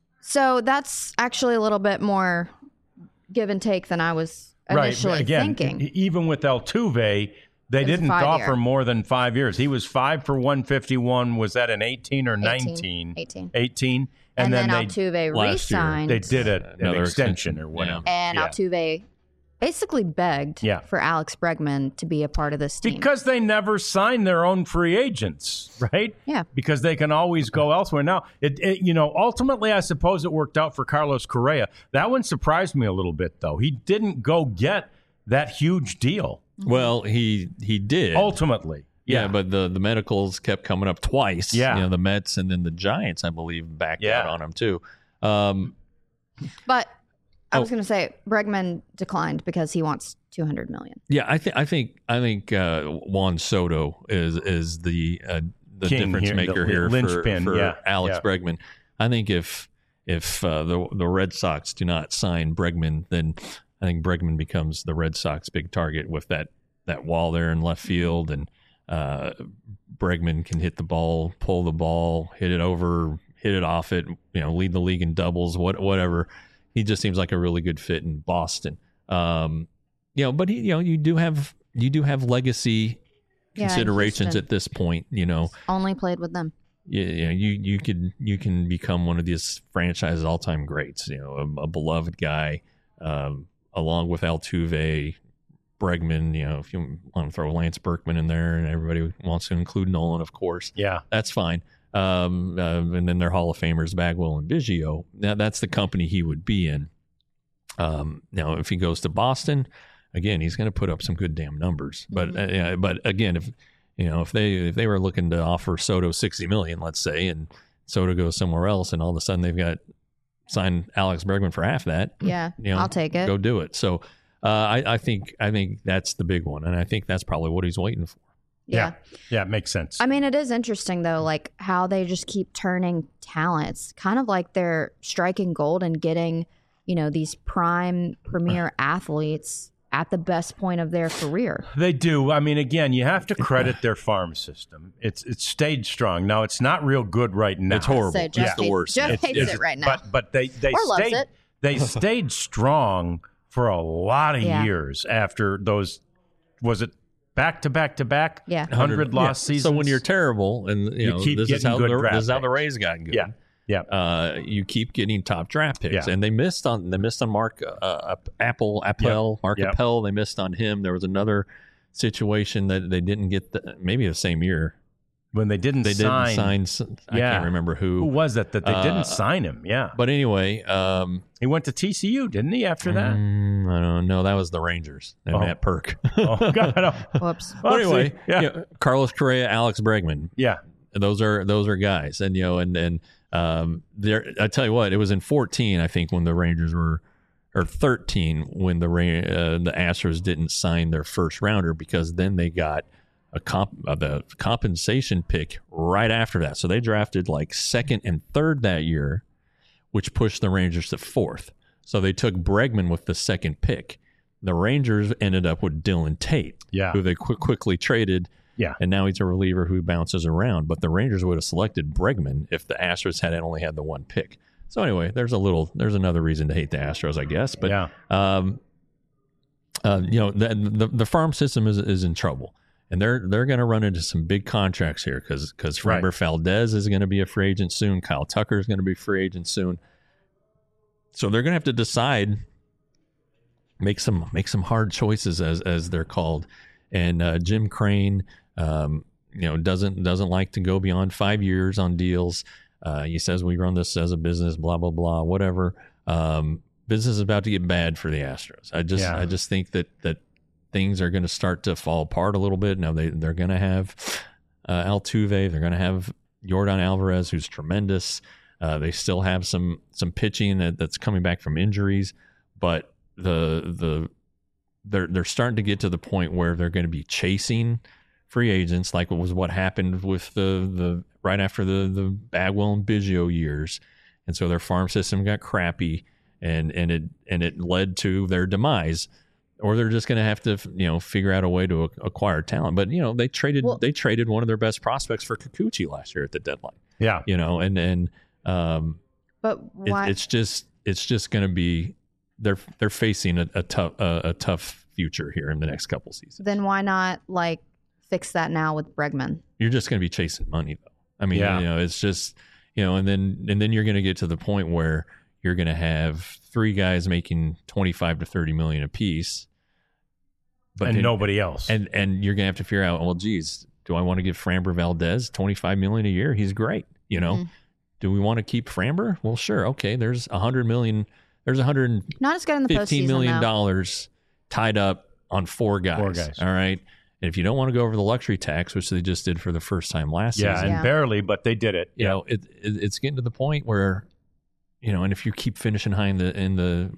So that's actually a little bit more give and take than I was initially right. Again, thinking. e- even with Altuve, they It was didn't five offer year. more than five years. He was five for one fifty-one. Was that an eighteen or nineteen? eighteen. eighteen. And, then, they, Altuve last year, re-signed. they did a, an Another extension, extension, or whatever. And Yeah. Altuve basically begged Yeah. for Alex Bregman to be a part of this team. Because they never sign their own free agents, right? Yeah. Because they can always go elsewhere. Now, it, it you know, ultimately, I suppose it worked out for Carlos Correa. That one surprised me a little bit, though. He didn't go get that huge deal. Well, he he did. Ultimately. Yeah, Yeah. but the, the medicals kept coming up twice. Yeah. You know, the Mets and then the Giants, I believe, backed Yeah. out on him too. Um, But I was Oh. going to say Bregman declined because he wants two hundred million dollars. yeah, I think I think I think uh, Juan Soto is is the uh, the King difference here, maker the here for, linchpin, for yeah, Alex yeah. Bregman. I think if if uh, the the Red Sox do not sign Bregman, then I think Bregman becomes the Red Sox big target with that that wall there in left field, and uh, Bregman can hit the ball, pull the ball, hit it over, hit it off it, you know, lead the league in doubles, what whatever. He just seems like a really good fit in Boston. Um, you know, but he, you know, you do have you do have legacy Yeah, considerations Houston. at this point. You know, Only played with them. you, you know, you you could you can become one of these franchise's all time greats. You know, a, a beloved guy, um, along with Altuve, Bregman. You know, if you want to throw Lance Berkman in there, and everybody wants to include Nolan, of course. Yeah, That's fine. Um, uh, and then their Hall of Famers, Bagwell and Biggio. Now that's the company he would be in. Um, now, if he goes to Boston, again, he's going to put up some good damn numbers. But uh, yeah, but again, if you know if they if they were looking to offer Soto sixty million, let's say, and Soto goes somewhere else, and all of a sudden they've got signed Alex Bregman for half that, Yeah, you know, I'll take it. Go do it. So uh, I, I think I think that's the big one, and I think that's probably what he's waiting for. Yeah. yeah, it makes sense. I mean, it is interesting though, like how they just keep turning talent. It's kind of like they're striking gold and getting, you know, these prime premier athletes at the best point of their career. They do. I mean, again, you have to credit their farm system. It's it's stayed strong. Now, it's not real good right now. It's horrible. So Jeff It's the hates- worst. Jeff It's- hates It's- it right now. But but they they Or loves stayed it. they stayed strong for a lot of Yeah. years after those. Was it back to back to back? Yeah. hundred lost Yeah. seasons. So when you're terrible, and you, You know keep this is getting how good the draft this is how the picks. Rays got good. Yeah. Yeah. Uh, you keep getting top draft picks, Yeah. and they missed on they missed on Mark uh, Apple Appel Mark Yep. Appel. They missed on him. There was another situation that they didn't get the, maybe the same year. when they didn't They sign. didn't sign. s- I Yeah. can't remember Who who. was it that they Uh, didn't sign him? Yeah, But anyway, um, he went to T C U, didn't he? After that. mm, I don't know. That was the Rangers and Oh. Matt Perk. Oh God. Oh. Whoops. But anyway, yeah, you know, Carlos Correa, Alex Bregman. yeah. Those are those are guys, and you know, and and um, there. I tell you what, it was in fourteen, I think, when the Rangers were, or thirteen, when the Ra- uh, the Astros didn't sign their first rounder, because then they got a comp uh, the compensation pick right after that. So they drafted like second and third that year, which pushed the Rangers to fourth. So they took Bregman with the second pick. The Rangers ended up with Dylan Tate, Yeah. who they qu- quickly traded. Yeah. And now he's a reliever who bounces around. But the Rangers would have selected Bregman if the Astros had only had the one pick. So anyway, there's a little, there's another reason to hate the Astros, I guess. But Yeah. um, uh, you know, the, the the farm system is is in trouble, and they're they're going to run into some big contracts here because because Framber Right. Valdez is going to be a free agent soon. Kyle Tucker is going to be a free agent soon. So they're going to have to decide, make some make some hard choices as as they're called. And uh, Jim Crane, um, you know, doesn't doesn't like to go beyond five years on deals. Uh, he says we run this as a business, blah blah blah, whatever. Um, business is about to get bad for the Astros. I just Yeah. I just think that that things are going to start to fall apart a little bit. Now they they're going to have uh, Altuve, they're going to have Yordan Alvarez, who's tremendous. Uh, they still have some some pitching that, that's coming back from injuries, but the the they're they're starting to get to the point where they're going to be chasing free agents, like it was what happened with the the right after the the Bagwell and Biggio years, and so their farm system got crappy, and and it and it led to their demise. Or they're just going to have to, you know, figure out a way to acquire talent. But you know, they traded Well- they traded one of their best prospects for Kikuchi last year at the deadline. Yeah. You know, and and um, But it, why? it's just it's just going to be they're they're facing a, a tough a, a tough future here in the next couple seasons. then why not like fix that now with Bregman? You're just going to be chasing money, though. I mean, Yeah. you know, it's just you know, and then and then you're going to get to the point where you're going to have three guys making twenty-five to thirty million apiece, but and then- nobody else. and and you're going to have to figure out, well, geez, do I want to give Framber Valdez twenty-five million a year? He's great, you know. Mhm. Do we want to keep Framber? Well, sure, okay. There's a hundred million. There's a hundred Not as good in the fifteen postseason million though. dollars tied up on four guys. Four guys. All right. And if you don't want to go over the luxury tax, which they just did for the first time last yeah, season, and Yeah. barely, but they did it. you know, it, it it's getting to the point where, you know, and if you keep finishing high in the in the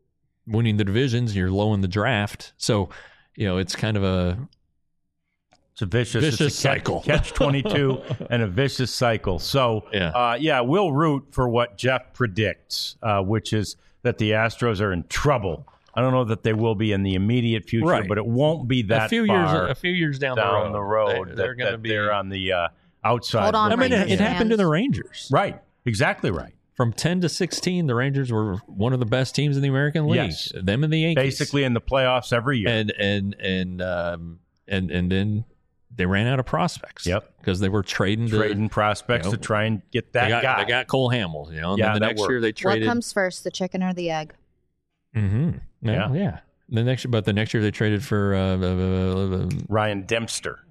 winning the divisions, you're low in the draft. So, you know, it's kind of a It's a vicious, Vicious it's a catch, cycle. catch twenty-two and a vicious cycle. So, Yeah. Uh, yeah, we'll root for what Jeff predicts, uh, which is that the Astros are in trouble. I don't know that they will be in the immediate future, Right. but it won't be that a few far years, a few years down, down the road. the road They, that, they're going to that be. they're on the uh, outside. Hold on, I mean, it, Rangers it happened to the fans. Rangers. Right. Exactly right. From ten to sixteen, the Rangers were one of the best teams in the American League. Yes. Them and the Yankees, Basically in the playoffs every year. and and and um, and and then they ran out of prospects. Yep. because they were trading to, Trading prospects you know, to try and get that they got, guy. They got Cole Hamels, you know. And Yeah, then the that next worked. year they What traded. comes first, the chicken or the egg? Mm-hmm. Yeah, Yeah. yeah. The next, but the next year they traded for uh, uh, uh, Ryan Dempster.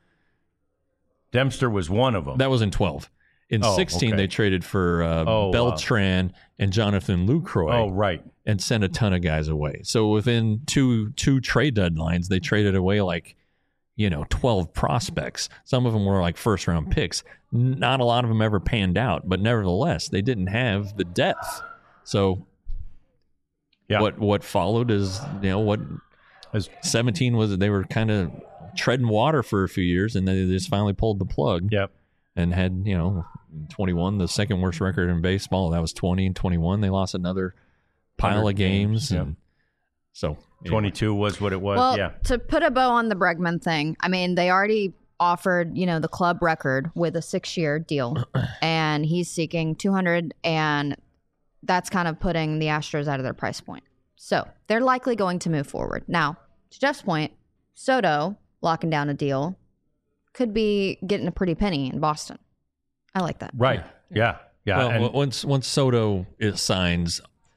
Dempster was one of them. that was in twelve. In Oh, sixteen, okay. they traded for uh, Oh, wow. Beltran and Jonathan Lucroy. oh, right. And sent a ton of guys away. So within two two trade deadlines, they traded away like, you know, twelve prospects. Some of them were like first round picks. Not a lot of them ever panned out, but nevertheless, they didn't have the depth. So Yeah. what what followed is, you know, what As- seventeen was, they were kind of treading water for a few years, and then they just finally pulled the plug Yep. and had, you know, twenty-one, the second worst record in baseball. That was twenty and twenty-one. They lost another pile one hundred of games. games, yep. And so anyway. twenty-two was what it was. Well, yeah. to put a bow on the Bregman thing, I mean, they already offered, you know, the club record with a six-year deal, and he's seeking two hundred, and that's kind of putting the Astros out of their price point. So they're likely going to move forward. Now, to Jeff's point, Soto locking down a deal could be getting a pretty penny in Boston. I like that. Right. Yeah. Yeah. Well, and w- once once Soto is signs,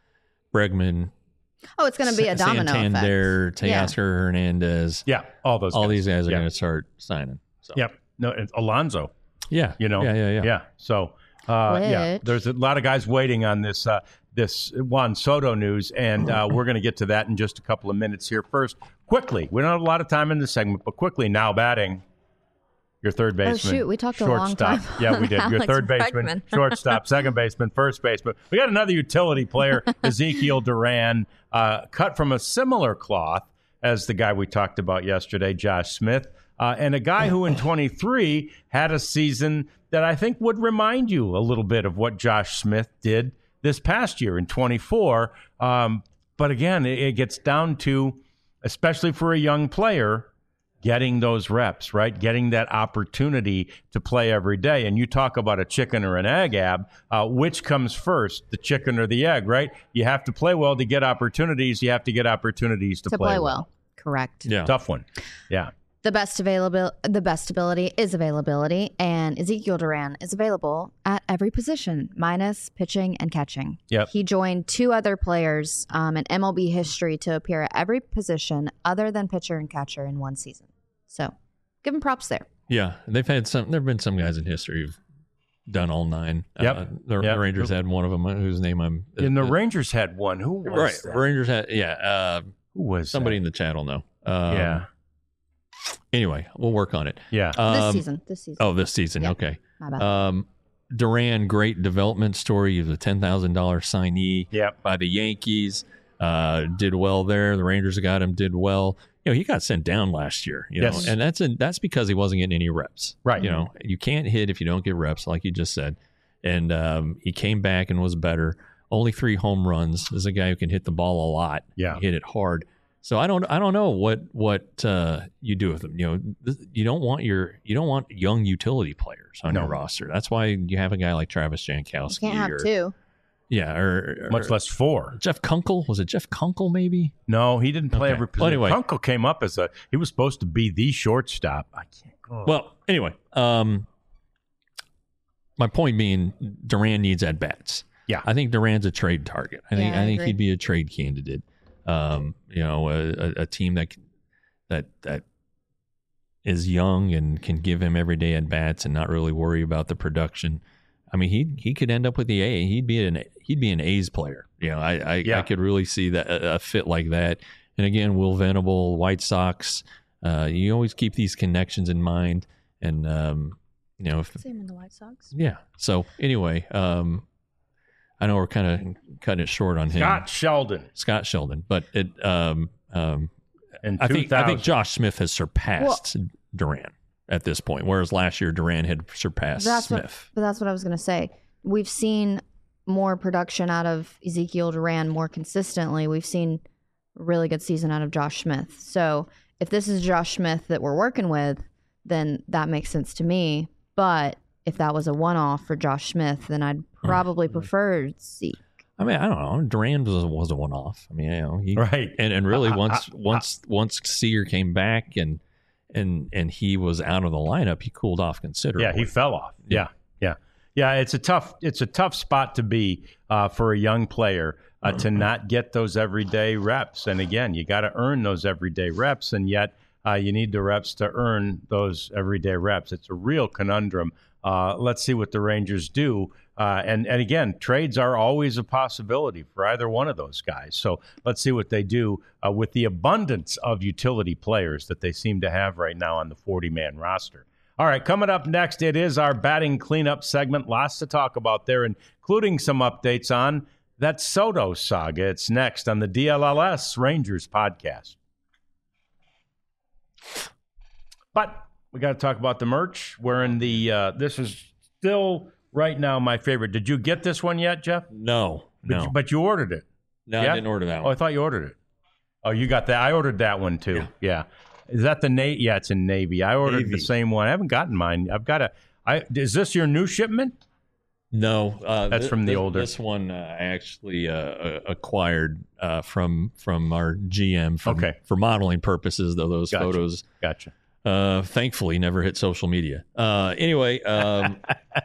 Bregman, Oh, it's going to be a Sa- domino Santander, effect. Yeah. Teoscar Hernandez, yeah, all those all guys. these guys are Yeah. going to start signing. So. Yep. No, it's Alonso, Yeah. you know. Yeah, yeah, yeah. Yeah. So, uh, yeah, Which- there's a lot of guys waiting on this uh, this Juan Soto news, and uh, we're going to get to that in just a couple of minutes here. First, quickly, we don't have a lot of time in this segment, but quickly, now batting your third baseman. Oh, shoot, we talked a long shortstop. time Yeah, we on did. Your Alex third baseman, Bregman. shortstop, second baseman, first baseman. We got another utility player, Ezekiel Duran, uh, cut from a similar cloth as the guy we talked about yesterday, Josh Smith. Uh, and a guy who in twenty-three had a season that I think would remind you a little bit of what Josh Smith did this past year in twenty-four. Um, but again, it, it gets down to, especially for a young player, getting those reps, right? Getting that opportunity to play every day. And you talk about a chicken or an egg, Ab. Uh, which comes first, the chicken or the egg, right? You have to play well to get opportunities. You have to get opportunities to, To play well. Correct. Yeah. Tough one. Yeah. The best available, the best ability is availability, and Ezekiel Duran is available at every position, minus pitching and catching. Yep. He joined two other players um, in M L B history to appear at every position other than pitcher and catcher in one season. So, give him props there. Yeah. They've had some, there have been some guys in history who've done all nine. Yep. Uh, the, Yep. the Rangers had one of them whose name I'm. And the uh, Rangers had one. Who was Right. that? Rangers had, yeah. Uh, Who was somebody that? in the chat will know. Um, Yeah. Anyway, we'll work on it. Yeah. This Um, season. This season. Oh, this season. Yeah. Okay. My bad. Um, Duran, great development story. He was a ten thousand dollars signee Yep. by the Yankees. Uh, did well there. The Rangers got him. Did well. You know, he got sent down last year. You Yes. know, and that's a, that's because he wasn't getting any reps. Right. You know, you can't hit if you don't get reps, like you just said. And um, he came back and was better. Only three home runs. This is a guy who can hit the ball a lot. Yeah. Hit it hard. So I don't I don't know what what uh, you do with them. You know, this, you don't want your you don't want young utility players on No. your roster. That's why you have a guy like Travis you Jankowski. can't have or, two. Yeah, or, or Much less four. Jeff Kunkel. Was it Jeff Kunkel? Maybe. No, he didn't play Okay. every Well, position. anyway. Kunkel came up as a, he was supposed to be the shortstop. I can't go. Well, anyway, um, my point being, Duran needs at bats. Yeah. I think Duran's a trade target. I think Yeah, I I think agree. he'd be a trade candidate. Um, you know, a, a, a team that that that is young and can give him every day at bats and not really worry about the production. I mean, he he could end up with the A. He'd be an he'd be an A's player. You know, I I, Yeah. I could really see that a, a fit like that. And again, Will Venable, White Sox. Uh, you always keep these connections in mind, and um, you know, if, Same in the White Sox. yeah. So anyway, um, I know we're kind of cutting it short on him, Scott Sheldon Scott Sheldon, but it. Um, um, in I think I think two thousand. Josh Smith has surpassed Duran. at this point, whereas last year Duran had surpassed That's what, Smith. but that's what I was going to say. We've seen more production out of Ezekiel Duran more consistently. We've seen a really good season out of Josh Smith. So if this is Josh Smith that we're working with, then that makes sense to me. But if that was a one-off for Josh Smith, then I'd probably prefer Zeke. I mean, I don't know. Duran was, was a one-off. I mean, you know, he, Right. And and really, I- once I- I- once once Seager came back and and and he was out of the lineup, he cooled off considerably. Yeah, he fell off. Yeah, yeah, yeah. It's a tough, it's a tough spot to be uh, for a young player uh, to not get those everyday reps. And again, you got to earn those everyday reps, and yet uh, you need the reps to earn those everyday reps. It's a real conundrum. Uh, let's see what the Rangers do. Uh, and, and again, trades are always a possibility for either one of those guys. So let's see what they do uh, with the abundance of utility players that they seem to have right now on the forty-man roster. All right, coming up next, it is our batting cleanup segment. Lots to talk about there, including some updates on that Soto saga. It's next on the D L L S Rangers podcast. But we got to talk about the merch. We're in the, uh, this is still right now my favorite. Did you get this one yet, Jeff? No, But, no, you, but you ordered it. no. yeah? I didn't order that Oh, one. I thought you ordered it. Oh, you got that. I ordered that one too. Yeah. yeah. Is that the Navy? Yeah, it's in Navy. I ordered Navy. the same one. I haven't gotten mine. I've got a, I, is this your new shipment? No, uh, That's thi- from the thi- older. This one uh, I actually uh, uh, acquired uh, from from our G M for, Okay. for modeling purposes. Though those Gotcha. photos, Gotcha. uh, thankfully, never hit social media. Uh, anyway, um,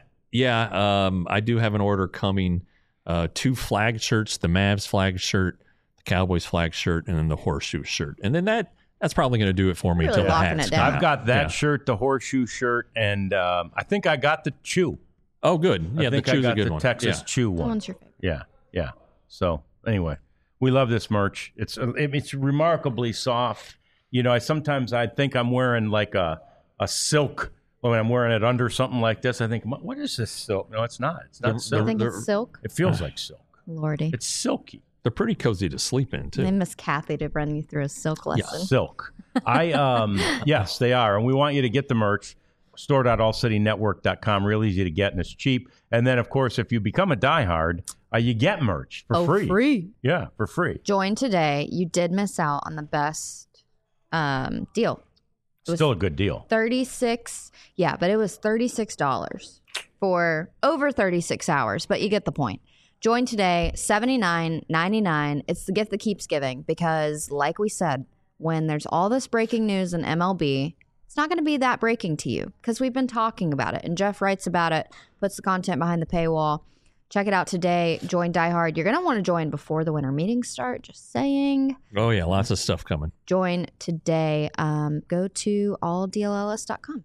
yeah, um, I do have an order coming. Uh, two flag shirts: the Mavs flag shirt, the Cowboys flag shirt, and then the horseshoe shirt. And then that that's probably going to do it for me Really until the locking hats it come down. I've out. got that Yeah. shirt, the horseshoe shirt, and um, I think I got the chew. Oh, good. I Yeah, think the I chew's got a good the one. Texas Yeah. chew That one. one's your favorite. Yeah, yeah. So anyway, we love this merch. It's it's remarkably soft. You know, I sometimes I think I'm wearing like a a silk when I'm wearing it under something like this. I think, what is this silk? No, it's not. It's not The- silk. I think They're- it's silk. It feels like silk. Lordy. It's silky. They're pretty cozy to sleep in too. I miss Kathy to run you through a silk lesson. Silk. I um yes, they are, and we want you to get the merch. store dot all city network dot com. Real easy to get, and it's cheap. And then, of course, if you become a diehard, uh, you get merch for oh, free. free. Yeah, for free. Join today. You did miss out on the best um, deal. It was Still a good deal. thirty-six Yeah, but it was thirty-six dollars for over thirty-six hours, but you get the point. Join today, seventy-nine ninety-nine. It's the gift that keeps giving because, like we said, when there's all this breaking news in M L B, it's not going to be that breaking to you because we've been talking about it. And Jeff writes about it, puts the content behind the paywall. Check it out today. Join Die Hard. You're going to want to join before the winter meetings start. Just saying. Oh yeah, lots of stuff coming. Join today. Um, go to all D L L S dot com.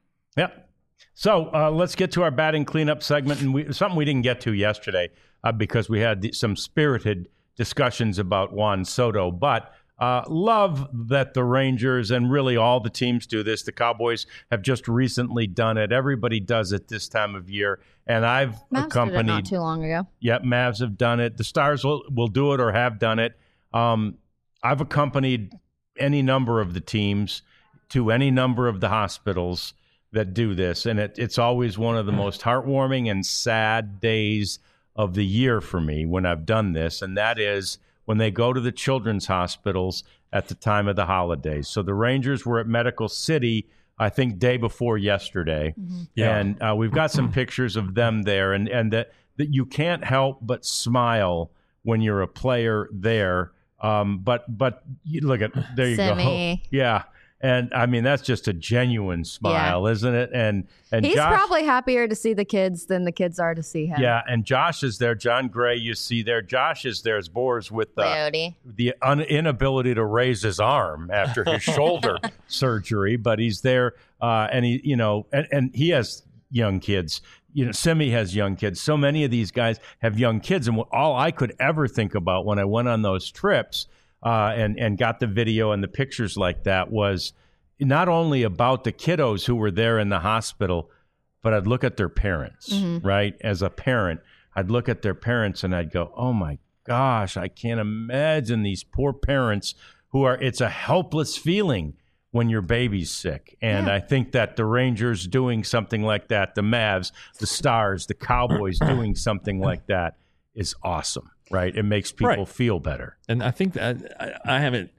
Yep. So uh, let's get to our batting cleanup segment, and we, something we didn't get to yesterday uh, because we had the, some spirited discussions about Juan Soto. But uh, love that the Rangers and really all the teams do this. The Cowboys have just recently done it. Everybody does it this time of year, and I've Mavs did it accompanied. not too long ago. Yep, Mavs have done it. The Stars will, will do it or have done it. Um, I've accompanied any number of the teams to any number of the hospitals that do this, and it, it's always one of the most heartwarming and sad days of the year for me when I've done this, and that is when they go to the children's hospitals at the time of the holidays. So the Rangers were at Medical City, I think, day before yesterday, Yeah. and uh, we've got some pictures of them there, and and that that you can't help but smile when you're a player there. Um, but but you look at there you Simi. go, yeah. And I mean, that's just a genuine smile, isn't it? And and He's Josh, probably happier to see the kids than the kids are to see him. yeah, and Josh is there. John Gray, you see there. Josh is there as Boers with uh, Coyote. the un- inability to raise his arm after his shoulder surgery, but he's there, uh, and he, you know, and, and he has young kids. You know, Simi has young kids. So many of these guys have young kids, and what, all I could ever think about when I went on those trips uh, and and got the video and the pictures like that was not only about the kiddos who were there in the hospital, but I'd look at their parents, Mm-hmm. right? As a parent, I'd look at their parents and I'd go, oh my gosh, I can't imagine these poor parents who are, it's a helpless feeling when your baby's sick. And Yeah. I think that the Rangers doing something like that, the Mavs, the Stars, the Cowboys doing something like that is awesome, right? It makes people Right. feel better. And I think that I, I haven't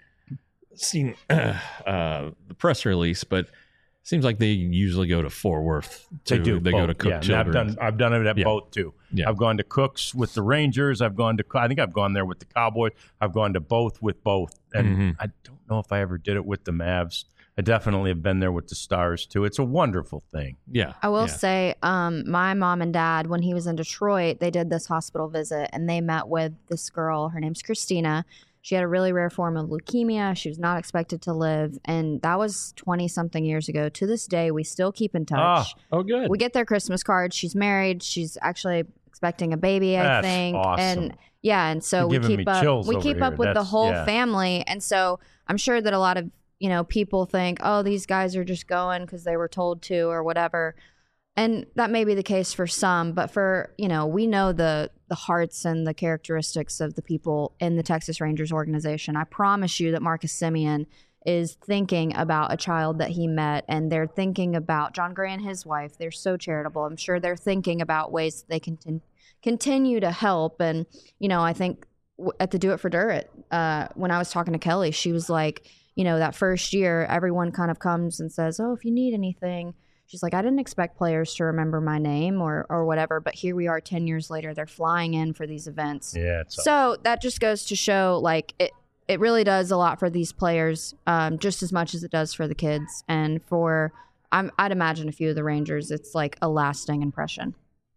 seen uh, the press release, but it seems like they usually go to Fort Worth. Too. They do. They both. go to Cook yeah, and I've Children's. done. I've done it at Yeah. both too. Yeah. I've gone to Cooks with the Rangers. I've gone to. I think I've gone there with the Cowboys. I've gone to both with both, and Mhm. I don't know if I ever did it with the Mavs. I definitely have been there with the Stars too. It's a wonderful thing. Yeah. I will yeah. say, um, my mom and dad, when he was in Detroit, they did this hospital visit and they met with this girl. Her name's Christina. She had a really rare form of leukemia. She was not expected to live. And that was twenty something years ago. To this day, we still keep in touch. Oh, good. We get their Christmas cards. She's married. She's actually expecting a baby, I That's think. awesome. And yeah, and so You're we giving keep me up chills we over keep up here. with the That's- whole yeah. family. And so I'm sure that a lot of, you know, people think, oh, these guys are just going because they were told to or whatever. And that may be the case for some, but for, you know, we know the the hearts and the characteristics of the people in the Texas Rangers organization. I promise you that Marcus Semien is thinking about a child that he met, and they're thinking about John Gray and his wife. They're so charitable. I'm sure they're thinking about ways that they can con- continue to help. And, you know, I think w- at the Do It for Durrett, uh, when I was talking to Kelly, she was like, you know, that first year, everyone kind of comes and says, oh, if you need anything. She's like, I didn't expect players to remember my name or or whatever, but here we are ten years later. They're flying in for these events. Yeah. It's So that just goes to show, like, it, it really does a lot for these players, um, just as much as it does for the kids. And for, I'm, I'd imagine a few of the Rangers, it's like a lasting impression.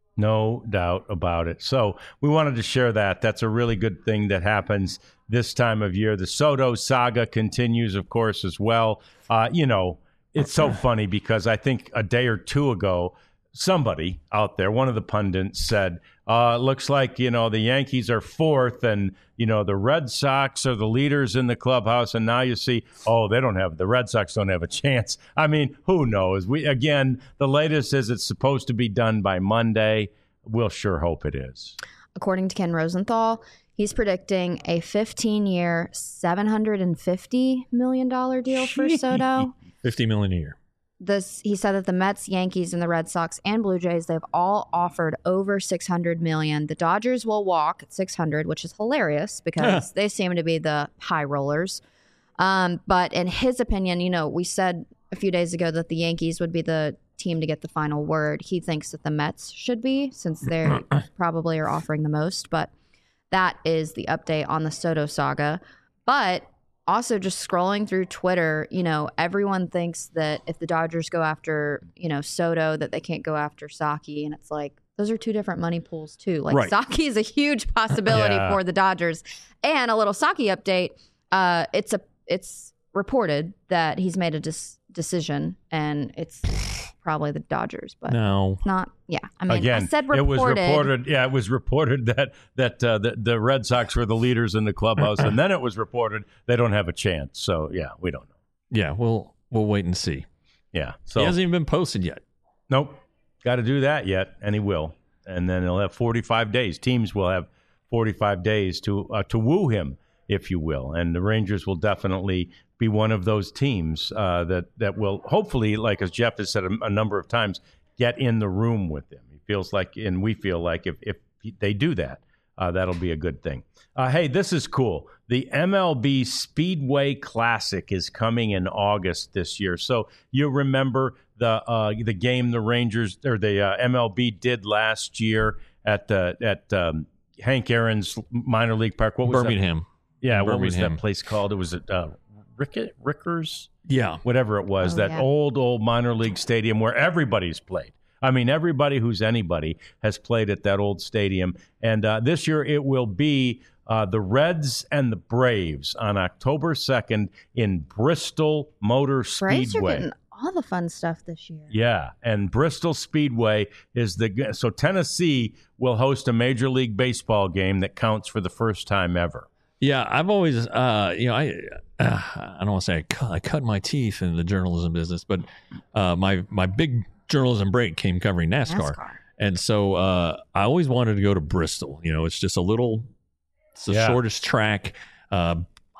No doubt about it. So we wanted to share that. That's a really good thing that happens this time of year. The Soto saga continues, of course, as well. Uh, you know, it's so funny because I think a day or two ago, somebody out there, one of the pundits said, uh, looks like, you know, the Yankees are fourth and, you know, the Red Sox are the leaders in the clubhouse. And now you see, oh, they don't have, the Red Sox don't have a chance. I mean, who knows? We, again, the latest is it's supposed to be done by Monday. We'll sure hope it is. According to Ken Rosenthal, he's predicting a fifteen-year, seven hundred fifty million dollars deal for Soto. fifty million a year. This, he said that the Mets, Yankees, and the Red Sox and Blue Jays, they've all offered over six hundred million dollars. The Dodgers will walk at six hundred, which is hilarious because they seem to be the high rollers. Um, but in his opinion, you know, we said a few days ago that the Yankees would be the team to get the final word. He thinks that the Mets should be, since they probably are offering the most. But that is the update on the Soto saga. But also, just scrolling through Twitter, you know, everyone thinks that if the Dodgers go after, you know, Soto, that they can't go after Saki. And it's like, those are two different money pools, too. Like, Right. Saki is a huge possibility Yeah. for the Dodgers. And a little Saki update. Uh, it's a it's reported that he's made a dis- decision, and it's probably the Dodgers, but No. not. Yeah, I mean, Again, I said reported. it was reported. Yeah, it was reported that that uh, the, the Red Sox were the leaders in the clubhouse, and then it was reported they don't have a chance. So yeah, we don't know. Yeah, we'll we'll wait and see. Yeah, so He hasn't even been posted yet. nope, got to do that yet, and he will, and then he'll have forty-five days. Teams will have forty-five days to uh, to woo him, if you will, and the Rangers will definitely be one of those teams uh, that that will hopefully, like as Jeff has said a, a number of times, get in the room with them. He feels like, and we feel like, if if they do that, uh, that'll be a good thing. Uh, hey, this is cool. The M L B Speedway Classic is coming in August this year. So you remember the uh, the game the Rangers or the uh, M L B did last year at the at um, Hank Aaron's minor league park. What was that? Birmingham. Yeah, what was Birmingham. that place called? It was at uh, Rickett, Rickers, Yeah. whatever it was, Oh, that yeah. old, old minor league stadium where everybody's played. I mean, everybody who's anybody has played at that old stadium. And uh, this year it will be uh, the Reds and the Braves on October second in Bristol Motor Braves are Speedway. getting all the fun stuff this year. Yeah, and Bristol Speedway is the so Tennessee will host a Major League Baseball game that counts for the first time ever. Yeah, I've always, uh, you know, I uh, I don't want to say I cut, I cut my teeth in the journalism business, but uh, my my big journalism break came covering NASCAR, NASCAR. and so uh, I always wanted to go to Bristol. You know, it's just a little, it's the Yeah. shortest track, uh, one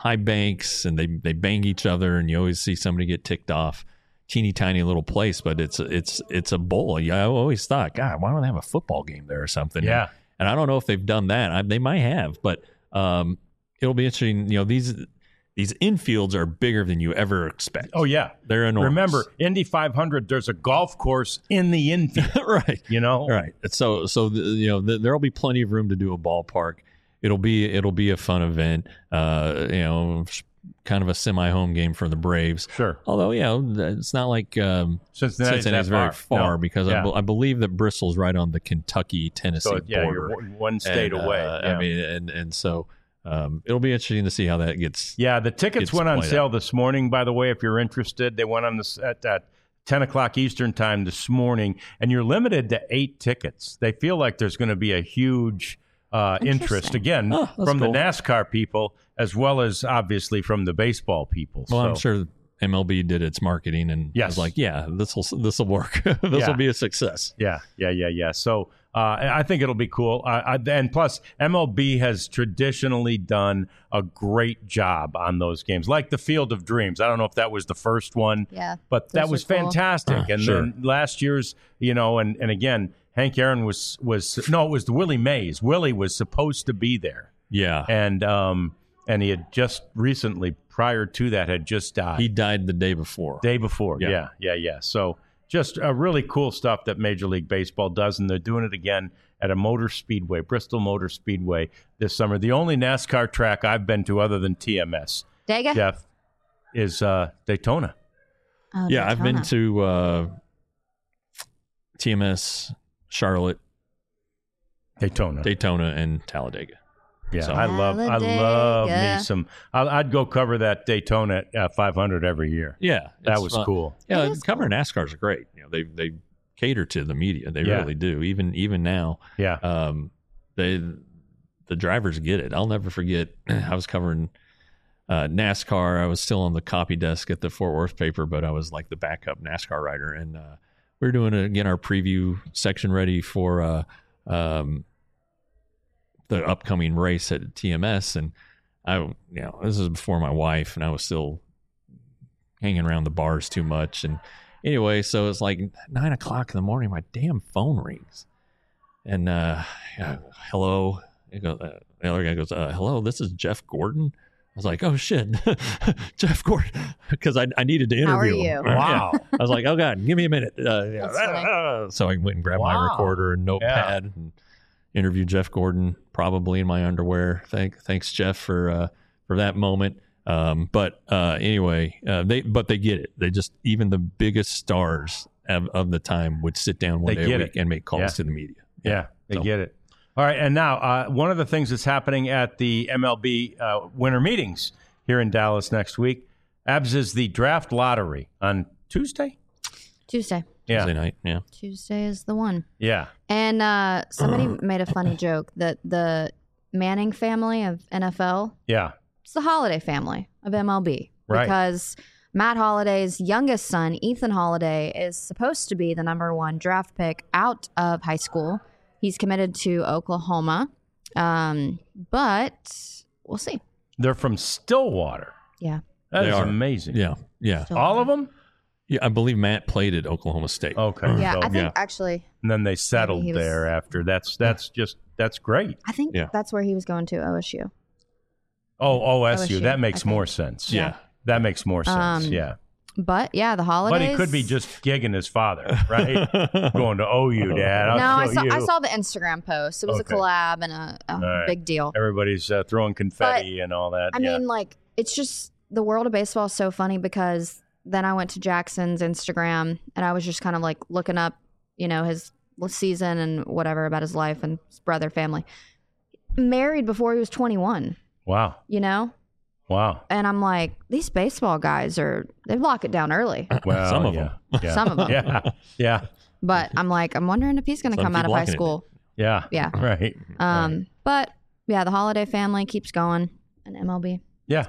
high banks, and they they bang each other, and you always see somebody get ticked off. Teeny tiny little place, but it's it's it's a bowl. Yeah, I always thought, God, why don't they have a football game there or something? Yeah, and, and I don't know if they've done that. I, they might have, but um, it'll be interesting. You know, these these infields are bigger than you ever expect. Oh yeah, they're enormous. Remember, Indy five hundred. There's a golf course in the infield, right? You know, right. So so the, you know the, there'll be plenty of room to do a ballpark. It'll be it'll be a fun event. Uh, you know. Kind of a semi-home game for the Braves. Sure. Although, yeah, it's not like um, Cincinnati's, Cincinnati's very far, far no. because yeah. I, be- I believe that Bristol's right on the Kentucky-Tennessee so, yeah, border. You're one state and, away. Uh, yeah. I mean, and and so um, it'll be interesting to see how that gets. Yeah, the tickets gets went on sale out. this morning. By the way, if you're interested, they went on this at, at ten o'clock Eastern time this morning, and you're limited to eight tickets. They feel like there's going to be a huge uh, interest again Oh, that's from cool. the NASCAR people, as well as obviously from the baseball people. Well, so. I'm sure M L B did its marketing and Yes. was like, yeah, this will this will work. this Yeah. will be a success. Yeah, yeah, yeah, yeah. So uh, I think it'll be cool. Uh, I, and plus, M L B has traditionally done a great job on those games, like the Field of Dreams. I don't know if that was the first one, Yeah, but that those was are cool. fantastic. Uh, and sure. then last year's, you know, and, and again, Hank Aaron was was no, it was the Willie Mays. Willie was supposed to be there, Yeah, and um, and he had just recently, prior to that, had just died. he died the day before. Day before, Yeah. yeah, yeah, yeah. So just uh, really cool stuff that Major League Baseball does, and they're doing it again at a motor speedway, Bristol Motor Speedway, this summer. The only NASCAR track I've been to other than T M S, Dega? Jeff, is uh, Daytona. Oh, yeah, I've been Daytona. to uh, T M S, Charlotte, Daytona. Daytona, and Talladega. yeah, So- I love, I love me Talladega. some. I, I'd go cover that Daytona uh, five hundred every year. Yeah, That it's was fun. cool. Yeah, It is covering NASCARs are great. You know, they they cater to the media. They Yeah. really do. Even even now, Yeah, um, they the drivers get it. I'll never forget. I was covering uh, NASCAR. I was still on the copy desk at the Fort Worth paper, but I was like the backup NASCAR writer, and uh, we were doing uh, again our preview section ready for uh, um, the upcoming race at T M S, and I, you know, this is before my wife, and I was still hanging around the bars too much, and anyway, so it's like nine o'clock in the morning. My damn phone rings, and uh, yeah, hello. It goes, uh, the other guy goes, uh, "Hello, this is Jeff Gordon." I was like, "Oh shit, Jeff Gordon," because I, I needed to interview How are him. you? Wow. Yeah. I was like, "Oh god, give me a minute." Uh, yeah. That's funny. So I went and grabbed my Wow. recorder and notepad and interviewed Jeff Gordon, probably in my underwear. Thank, thanks, Jeff, for uh, for that moment. Um, but uh, anyway, uh, they but they get it. They just even the biggest stars of, of the time would sit down one They day get a week it. and make calls Yeah. to the media. Yeah, they So- get it. All right, and now uh, one of the things that's happening at the M L B uh, winter meetings here in Dallas next week, Abs, is the draft lottery on Tuesday. Tuesday. Yeah, Tuesday night. Yeah. Tuesday is the one. yeah, And uh, somebody made a funny joke that the Manning family of N F L, yeah. it's the Holiday family of M L B. Right. Because Matt Holliday's youngest son, Ethan Holiday, is supposed to be the number one draft pick out of high school. He's committed to Oklahoma. Um, but we'll see. They're from Stillwater. Yeah. That They is are. amazing. Yeah. Yeah. Still- All of them. Yeah. I believe Matt played at Oklahoma State. Okay. Yeah, so- I think yeah. actually, and then they settled he was- there after. That's that's just that's great. I think Yeah. that's where he was going to O S U. Oh, O S U. O S U, That makes I more think. sense. Yeah. That makes more sense. Um, yeah. But yeah, the holidays. But he could be just gigging his father, right? Going to O U, Dad. I'll No, I show saw you. I saw the Instagram post. It was Okay. a collab and a, a right. big deal. Everybody's uh, throwing confetti and all that. I yeah. mean, like, it's just the world of baseball is so funny because then I went to Jackson's Instagram and I was just kind of like looking up, you know, his season and whatever about his life and his brother, family. Married before he was twenty-one, wow. you know? Wow. And I'm like, these baseball guys are, they lock it down early. Well, Some of yeah. them. Yeah. Some of them. Yeah. Yeah. But I'm like, I'm wondering if he's going to Some come keep out of high locking it school. Yeah. Yeah. Right. Um, But yeah, the holiday family keeps going and M L B. Yeah. It's cool.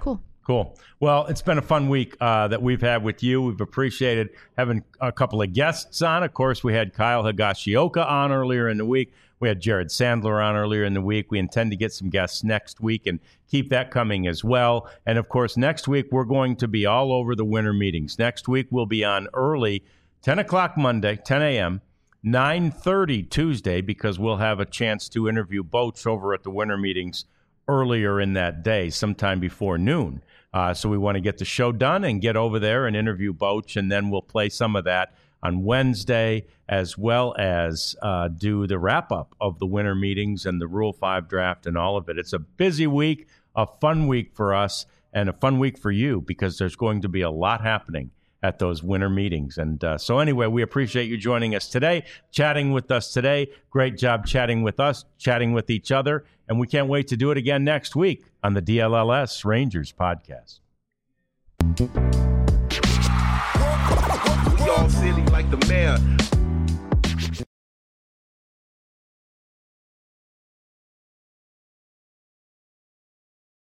Cool. Well, it's been a fun week uh, that we've had with you. We've appreciated having a couple of guests on. Of course, we had Kyle Higashioka on earlier in the week. We had Jared Sandler on earlier in the week. We intend to get some guests next week and keep that coming as well. And, of course, next week we're going to be all over the winter meetings. Next week we'll be on early, ten o'clock Monday, ten a.m., nine thirty Tuesday, because we'll have a chance to interview Boach over at the winter meetings earlier in that day, sometime before noon. Uh, so we want to get the show done and get over there and interview Boach, and then we'll play some of that on Wednesday, as well as uh, do the wrap-up of the winter meetings and the Rule five draft and all of it. It's a busy week, a fun week for us, and a fun week for you, because there's going to be a lot happening at those winter meetings. And uh, so anyway, we appreciate you joining us today, chatting with us today. Great job chatting with us, chatting with each other, and we can't wait to do it again next week on the D L L S Rangers podcast. We all silly like the mayor.